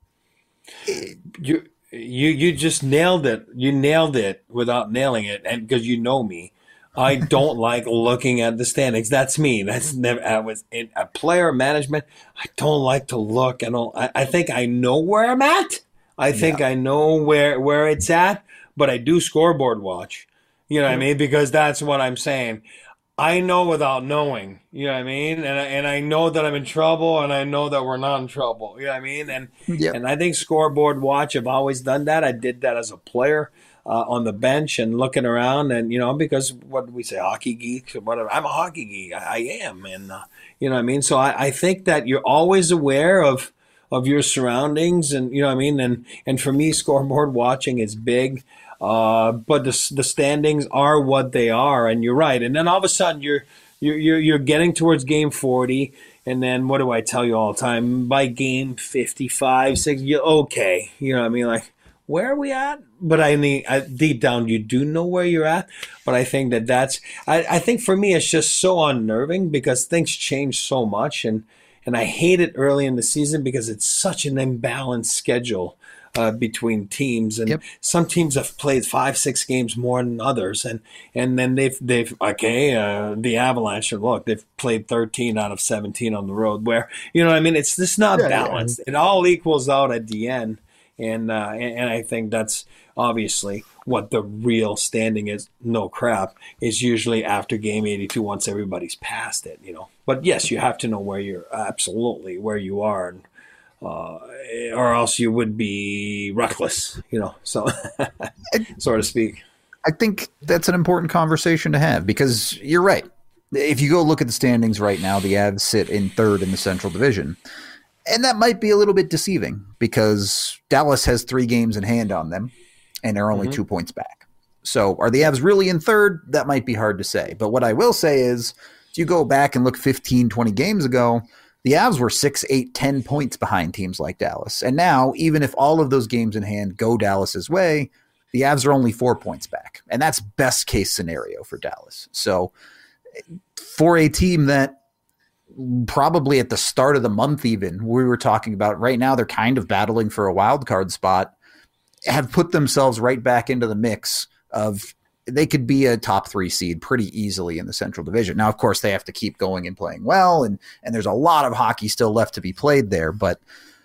Speaker 2: You you you just nailed it. You nailed it without nailing it, and because you know me, I don't like looking at the standings. That's me. That's never. I was in a player management. I don't like to look. I don't. I, I think I know where I'm at. I think yeah. I know where where it's at, but I do scoreboard watch. You know what I mean? Because that's what I'm saying. I know without knowing, you know what I mean? And I, and I know that I'm in trouble, and I know that we're not in trouble, you know what I mean? And
Speaker 1: Yep.
Speaker 2: and I think scoreboard watch, I've always done that. I did that as a player uh, on the bench and looking around, and you know, because what do we say, hockey geeks or whatever? I'm a hockey geek, I, I am, and uh, you know what I mean. So I, I think that you're always aware of of your surroundings, and you know what I mean. And and for me, scoreboard watching is big. Uh, but the the standings are what they are, and you're right. And then all of a sudden, you're you're you're, you're getting towards game forty, and then what do I tell you all the time? By game fifty-five, six, you okay? You know what I mean? Like, where are we at? But I mean, I, deep down, you do know where you're at. But I think that that's I, I think for me, it's just so unnerving because things change so much, and and I hate it early in the season because it's such an imbalanced schedule. Uh, between teams, and
Speaker 1: Yep.
Speaker 2: some teams have played five, six games more than others, and and then they've they've okay, uh, the Avalanche. Look, they've played thirteen out of seventeen on the road. Where you know, what I mean, it's just not
Speaker 1: Yeah, yeah.
Speaker 2: balanced. It all equals out at the end, and uh, and, and I think that's obviously what the real standing is. No crap is usually after game eighty-two once everybody's past it, you know. But yes, you have to know where you're absolutely where you are. And, Uh, or else you would be reckless, you know, so so to speak.
Speaker 1: I think that's an important conversation to have because you're right. If you go look at the standings right now, the Avs sit in third in the Central Division. And that might be a little bit deceiving because Dallas has three games in hand on them and they're only mm-hmm. two points back. So are the Avs really in third? That might be hard to say. But what I will say is if you go back and look fifteen, twenty games ago, the Avs were six, eight, ten points behind teams like Dallas. And now, even if all of those games in hand go Dallas's way, the Avs are only four points back. And that's best case scenario for Dallas. So for a team that probably at the start of the month even, we were talking about right now, they're kind of battling for a wild card spot, have put themselves right back into the mix of they could be a top three seed pretty easily in the Central Division. Now, of course, they have to keep going and playing well, and and there's a lot of hockey still left to be played there, but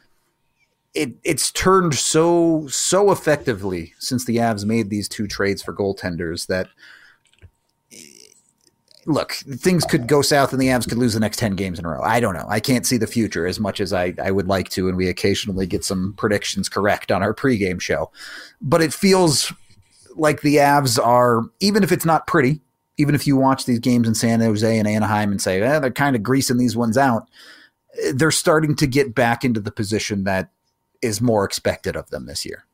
Speaker 1: it it's turned so so effectively since the Avs made these two trades for goaltenders that, look, things could go south and the Avs could lose the next ten games in a row. I don't know. I can't see the future as much as I, I would like to, and we occasionally get some predictions correct on our pregame show. But it feels like the Avs are, even if it's not pretty, even if you watch these games in San Jose and Anaheim and say, eh, they're kind of greasing these ones out, they're starting to get back into the position that is more expected of them this year.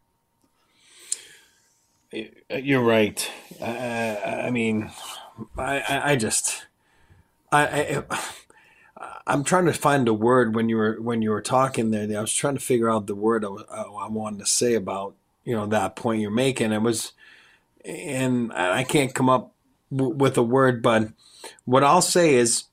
Speaker 2: You're right. I, I mean, I, I just, I, I, I'm trying to find a word when you were when you were talking there. I was trying to figure out the word I, was, I wanted to say about, you know, that point you're making. It was, and I can't come up w- with a word, but what I'll say is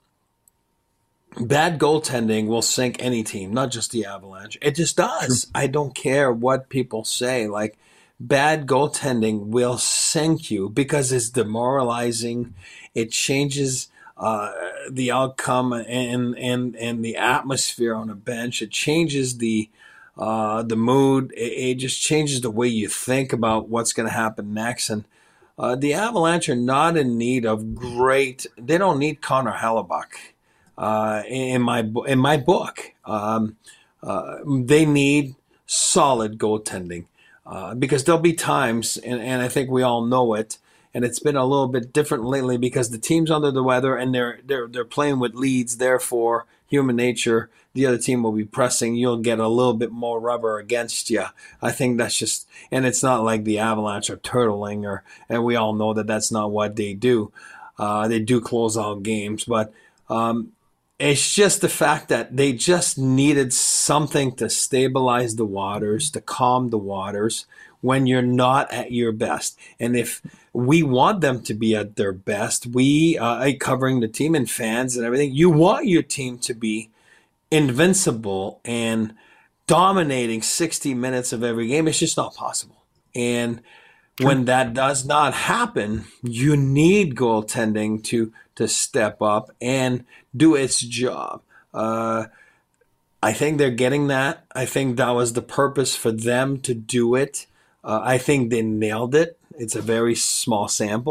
Speaker 2: bad goaltending will sink any team, not just the Avalanche. It just does. Sure. I don't care what people say. Like, bad goaltending will sink you because it's demoralizing. It changes uh, the outcome and, and, and the atmosphere on a bench. It changes the Uh, the mood, it, it just changes the way you think about what's going to happen next. And uh, the Avalanche are not in need of great. They don't need Connor Hellebuck uh, in my in my book. Um, uh, they need solid goaltending uh, because there'll be times, and, and I think we all know it. And it's been a little bit different lately because the team's under the weather and they're they're they're playing with leads. Therefore, human nature, the other team will be pressing. You'll get a little bit more rubber against you. I think that's just, and it's not like the Avalanche are turtling, or and we all know that that's not what they do. Uh, they do close out games, but um, it's just the fact that they just needed something to stabilize the waters, to calm the waters when you're not at your best. And if we want them to be at their best, we, uh, covering the team and fans and everything, you want your team to be invincible and dominating sixty minutes of every game. It's just not possible. And when that does not happen, you need goaltending to, to step up and do its job. Uh, I think they're getting that. I think that was the purpose for them to do it. Uh, I think they nailed it. It's a very small sample,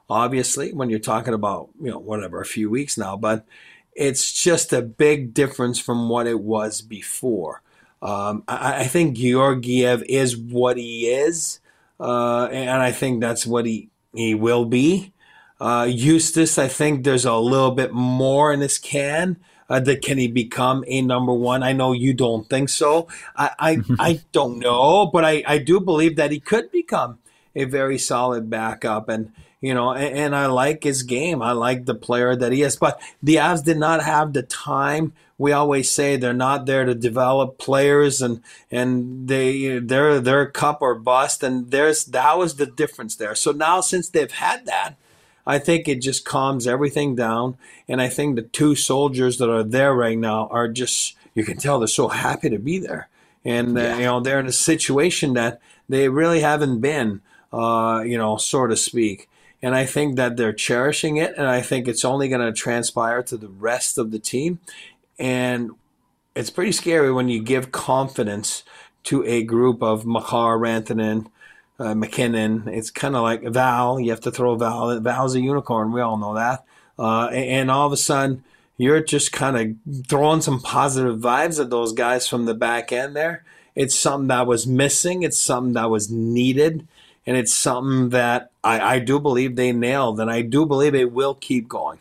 Speaker 2: obviously, when you're talking about, you know, whatever, a few weeks now, but it's just a big difference from what it was before. Um, I, I think Georgiev is what he is, uh, and I think that's what he, he will be. Uh, Eustace, I think there's a little bit more in his can. Uh, that can he become a number one? I know you don't think so. I I, I don't know, but I, I do believe that he could become a very solid backup. And, you know, and, and I like his game. I like the player that he is. But the Avs did not have the time. We always say they're not there to develop players, and and they they're they're cup or bust. And there's that was the difference there. So now, since they've had that, I think it just calms everything down. And I think the two soldiers that are there right now are just, you can tell they're so happy to be there. And, yeah. uh, you know, they're in a situation that they really haven't been, uh, you know, so to speak. And I think that they're cherishing it. And I think it's only going to transpire to the rest of the team. And it's pretty scary when you give confidence to a group of Makar, Rantanen, Uh, McKinnon. It's kind of like Val. You have to throw Val. Val's a unicorn. We all know that. Uh, and, and all of a sudden, you're just kind of throwing some positive vibes at those guys from the back end there. It's something that was missing. It's something that was needed. And it's something that I, I do believe they nailed. And I do believe it will keep going.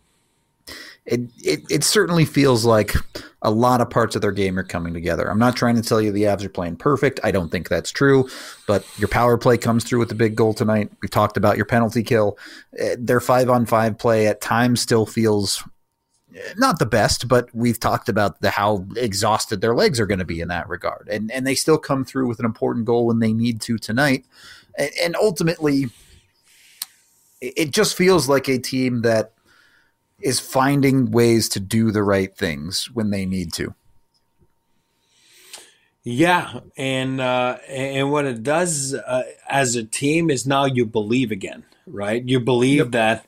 Speaker 1: It, it it certainly feels like a lot of parts of their game are coming together. I'm not trying to tell you the Avs are playing perfect. I don't think that's true. But your power play comes through with the big goal tonight. We've talked about your penalty kill. Their five-on-five play at times still feels not the best, but we've talked about the how exhausted their legs are going to be in that regard. And and they still come through with an important goal when they need to tonight. And, and ultimately, it just feels like a team that is finding ways to do the right things when they need to.
Speaker 2: Yeah, and uh, and what it does uh, as a team is now you believe again, right? You believe yep. that.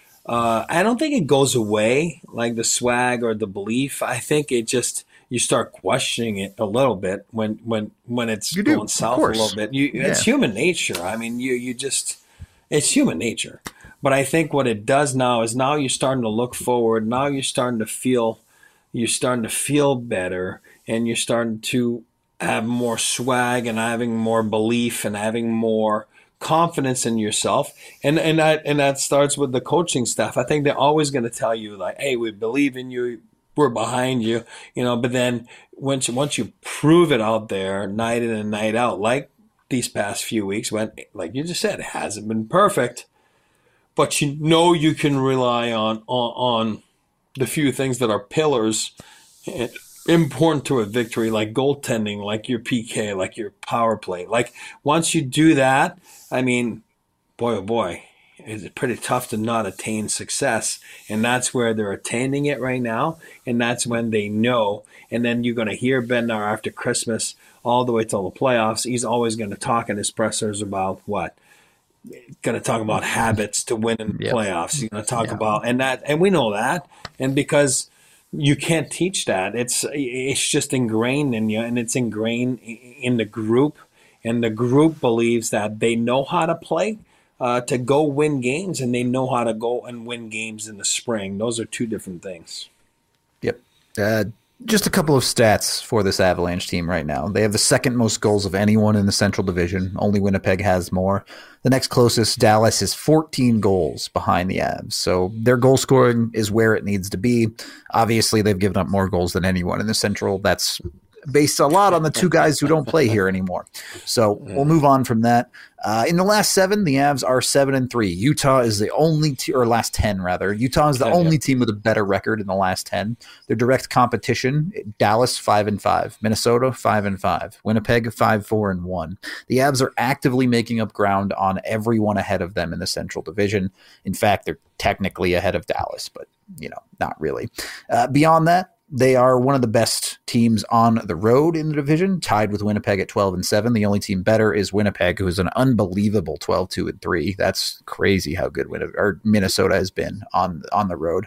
Speaker 2: Uh, I don't think it goes away like the swag or the belief. I think it just you start questioning it a little bit when when when it's
Speaker 1: you
Speaker 2: going
Speaker 1: do,
Speaker 2: south a little bit. You,
Speaker 1: yeah.
Speaker 2: It's human nature. I mean, you you just it's human nature. But I think what it does now is now you're starting to look forward. Now you're starting to feel, you're starting to feel better, and you're starting to have more swag and having more belief and having more confidence in yourself. And and that and that starts with the coaching staff. I think they're always going to tell you like, "Hey, we believe in you. We're behind you," you know. But then once you, once you prove it out there, night in and night out, like these past few weeks, when like you just said, it hasn't been perfect. But you know you can rely on, on on the few things that are pillars important to a victory, like goaltending, like your P K, like your power play. Like once you do that, I mean, boy, oh boy, it's pretty tough to not attain success. And that's where they're attaining it right now. And that's when they know. And then you're going to hear Bednar after Christmas all the way till the playoffs. He's always going to talk in his pressers about what? Going to talk about habits to win in the yep. playoffs. You're going to talk yeah. about and that, and we know that, and because you can't teach that, it's it's just ingrained in you, and it's ingrained in the group, and the group believes that they know how to play uh, to go win games, and they know how to go and win games in the spring. Those are two different things.
Speaker 1: Yep. Uh, Just a couple of stats for this Avalanche team right now. They have the second most goals of anyone in the Central Division. Only Winnipeg has more. The next closest, Dallas, is fourteen goals behind the Avs. So their goal scoring is where it needs to be. Obviously, they've given up more goals than anyone in the Central. That's based a lot on the two guys who don't play here anymore. So we'll move on from that. Uh, in the last seven, the Avs are seven and three. Utah is the only te- or last ten rather. Utah is the yeah, only yeah. team with a better record in the last ten. Their direct competition: Dallas five and five, Minnesota five and five, Winnipeg five four and one. The Avs are actively making up ground on everyone ahead of them in the Central Division. In fact, they're technically ahead of Dallas, but you know, not really. Uh, beyond that, they are one of the best teams on the road in the division, tied with Winnipeg at twelve and seven. The only team better is Winnipeg, who is an unbelievable twelve two and three. That's crazy how good Winnipeg, or Minnesota has been on on the road.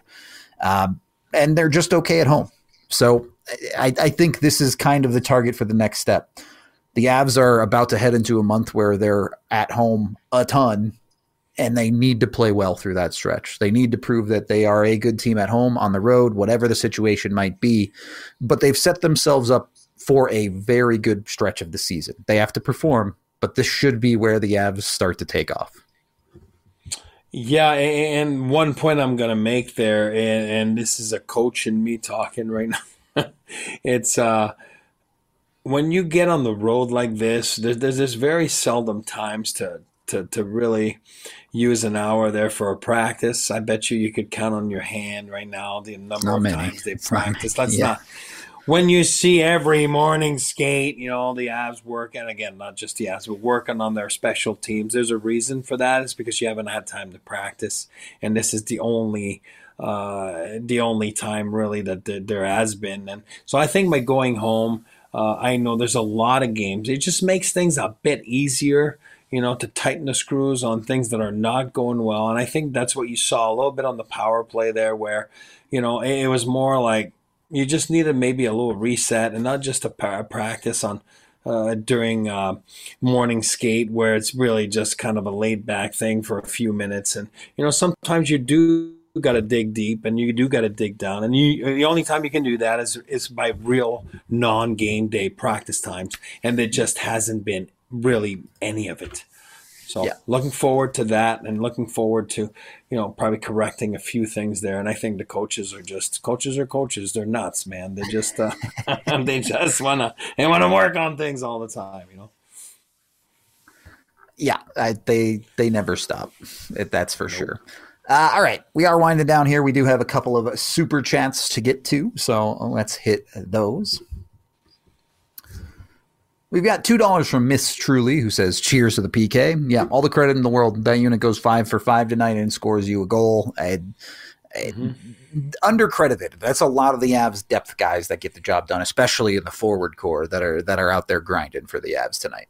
Speaker 1: Um, and they're just okay at home. So I, I think this is kind of the target for the next step. The Avs are about to head into a month where they're at home a ton, and they need to play well through that stretch. They need to prove that they are a good team at home, on the road, whatever the situation might be. But they've set themselves up for a very good stretch of the season. They have to perform, but this should be where the Avs start to take off.
Speaker 2: Yeah, and one point I'm going to make there, and, and this is a coach and me talking right now. It's uh, when you get on the road like this, there's, there's this very seldom times to, to, to really use an hour there for a practice. I bet you you could count on your hand right now the number
Speaker 1: Not
Speaker 2: of
Speaker 1: many.
Speaker 2: times they
Speaker 1: It's
Speaker 2: practice.
Speaker 1: not-
Speaker 2: Let's
Speaker 1: yeah.
Speaker 2: not. When you see every morning skate, you know, the Avs work, and again, not just the Avs, but working on their special teams, there's a reason for that. It's because you haven't had time to practice. And this is the only uh, the only time really that there, there has been. And so I think by going home, uh, I know there's a lot of games. It just makes things a bit easier, you know, to tighten the screws on things that are not going well. And I think that's what you saw a little bit on the power play there where, you know, it, it was more like, you just needed maybe a little reset and not just a pa- practice on uh, during uh, morning skate where it's really just kind of a laid back thing for a few minutes. And, you know, sometimes you do got to dig deep and you do got to dig down. And you, the only time you can do that is, is by real non-game day practice times. And there just hasn't been really any of it. So
Speaker 1: Yeah.
Speaker 2: looking forward to that and looking forward to, you know, probably correcting a few things there. And I think the coaches are just coaches are coaches. They're nuts, man. They just uh, they just wanna they wanna work on things all the time, you know.
Speaker 1: Yeah, I, they they never stop. It, that's for sure. Uh, all right, we are winding down here. We do have a couple of super chats to get to, so let's hit those. We've got two dollars from Miss Truly, who says, cheers to the P K. Yeah, all the credit in the world. That unit goes five for five tonight and scores you a goal. And, and undercredited. That's a lot of the Avs depth guys that get the job done, especially in the forward core that are that are out there grinding for the Avs tonight.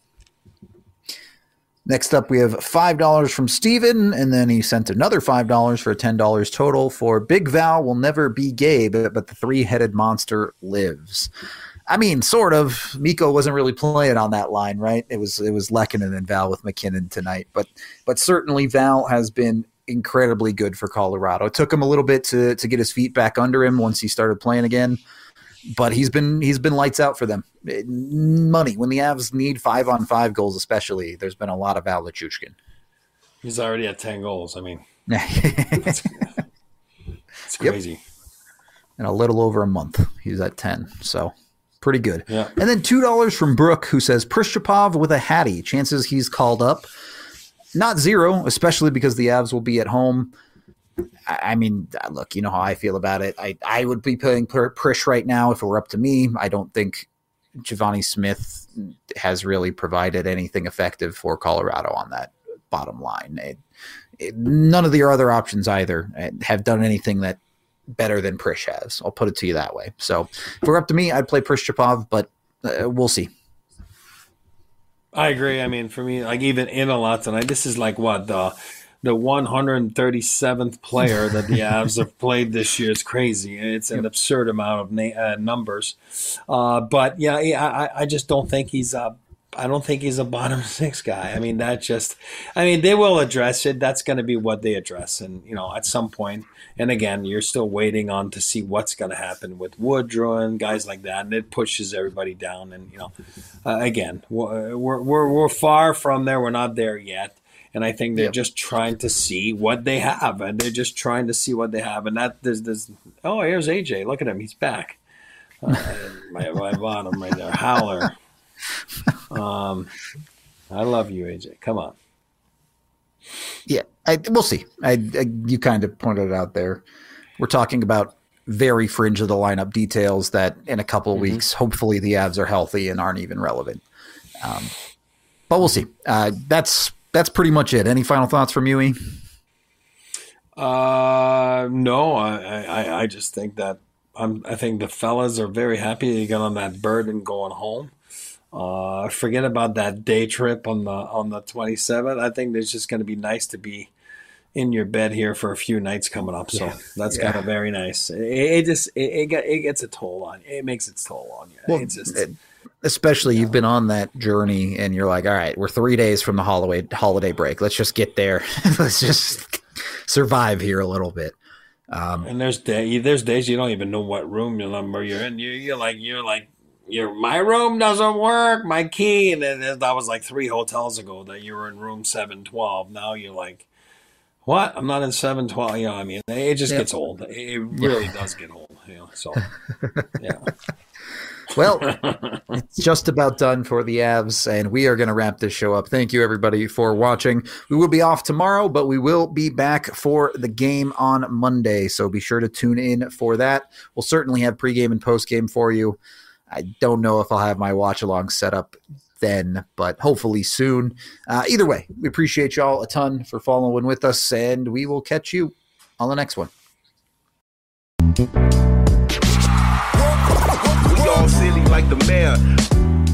Speaker 1: Next up, we have five dollars from Steven, and then he sent another five dollars for ten dollars total for Big Val will never be gay, but, but the three-headed monster lives. I mean, sort of. Mikko wasn't really playing on that line, right? It was it was Lehkonen and Val with McKinnon tonight. But but certainly Val has been incredibly good for Colorado. It took him a little bit to to get his feet back under him once he started playing again. But he's been he's been lights out for them. Money. When the Avs need five on five goals, especially, there's been a lot of Val Lichushkin.
Speaker 2: He's already at ten goals. I mean,
Speaker 1: it's
Speaker 2: it's crazy.
Speaker 1: Yep. In a little over a month, he's at ten. So pretty good.
Speaker 2: Yeah.
Speaker 1: And then two dollars from Brooke, who says Prishchapov with a hattie. Chances he's called up. Not zero, especially because the Avs will be at home. I mean, look, you know how I feel about it. I, I would be putting Prish right now if it were up to me. I don't think Giovanni Smith has really provided anything effective for Colorado on that bottom line. It, it, none of the other options either have done anything that better than Prish has. I'll put it to you that way. So if it were up to me, I'd play Prishchapov, but uh, we'll see.
Speaker 2: I agree. I mean, for me, like even in a lot tonight, this is like what the the one hundred thirty-seventh player that the Avs have played this year. It's crazy. It's an absurd amount of na- uh, numbers. Uh, but yeah, yeah I, I just don't think he's a. I don't think he's a bottom six guy. I mean, that just. I mean, they will address it. That's going to be what they address, and you know, at some point. And again, you're still waiting on to see what's going to happen with Woodrow and guys like that, and it pushes everybody down. And you know, uh, again, we're, we're we're far from there. We're not there yet. And I think they're yep. just trying to see what they have, and they're just trying to see what they have. And that there's this. Oh, here's A J. Look at him. He's back. Uh, my, my bottom right there, Howler. Um, I love you, A J. Come on.
Speaker 1: Yeah, I, we'll see. I, I you kind of pointed it out there. We're talking about very fringe of the lineup details that in a couple of mm-hmm. weeks, hopefully the Avs are healthy and aren't even relevant. Um, but we'll see. Uh, that's. That's pretty much it. Any final thoughts from you, E?
Speaker 2: Uh, no, I, I, I just think that I'm, I think the fellas are very happy they got on that bird and going home. Uh, forget about that day trip on the on the twenty-seventh. I think it's just going to be nice to be in your bed here for a few nights coming up. So yeah. that's yeah. kind of very nice. It, it just it, it, get, it gets a toll on you. It makes its toll on you.
Speaker 1: Well,
Speaker 2: it's just
Speaker 1: it, Especially you've been on that journey and you're like, all right, we're three days from the holiday holiday break. Let's just get there. Let's just survive here a little bit. Um,
Speaker 2: and there's day, there's days you don't even know what room number you're in. You, you're like, you're like, your my room doesn't work. My key, and then that was like three hotels ago that you were in room seven twelve. Now you're like, what? I'm not in seven twelve. You know, I mean, it just yep. gets old. It really yeah. does get old. You know, so yeah.
Speaker 1: Well, it's just about done for the Avs, and we are going to wrap this show up. Thank you, everybody, for watching. We will be off tomorrow, but we will be back for the game on Monday, so be sure to tune in for that. We'll certainly have pregame and postgame for you. I don't know if I'll have my watch-along set up then, but hopefully soon. Uh, either way, we appreciate y'all a ton for following with us, and we will catch you on the next one.
Speaker 5: We all silly like the mayor.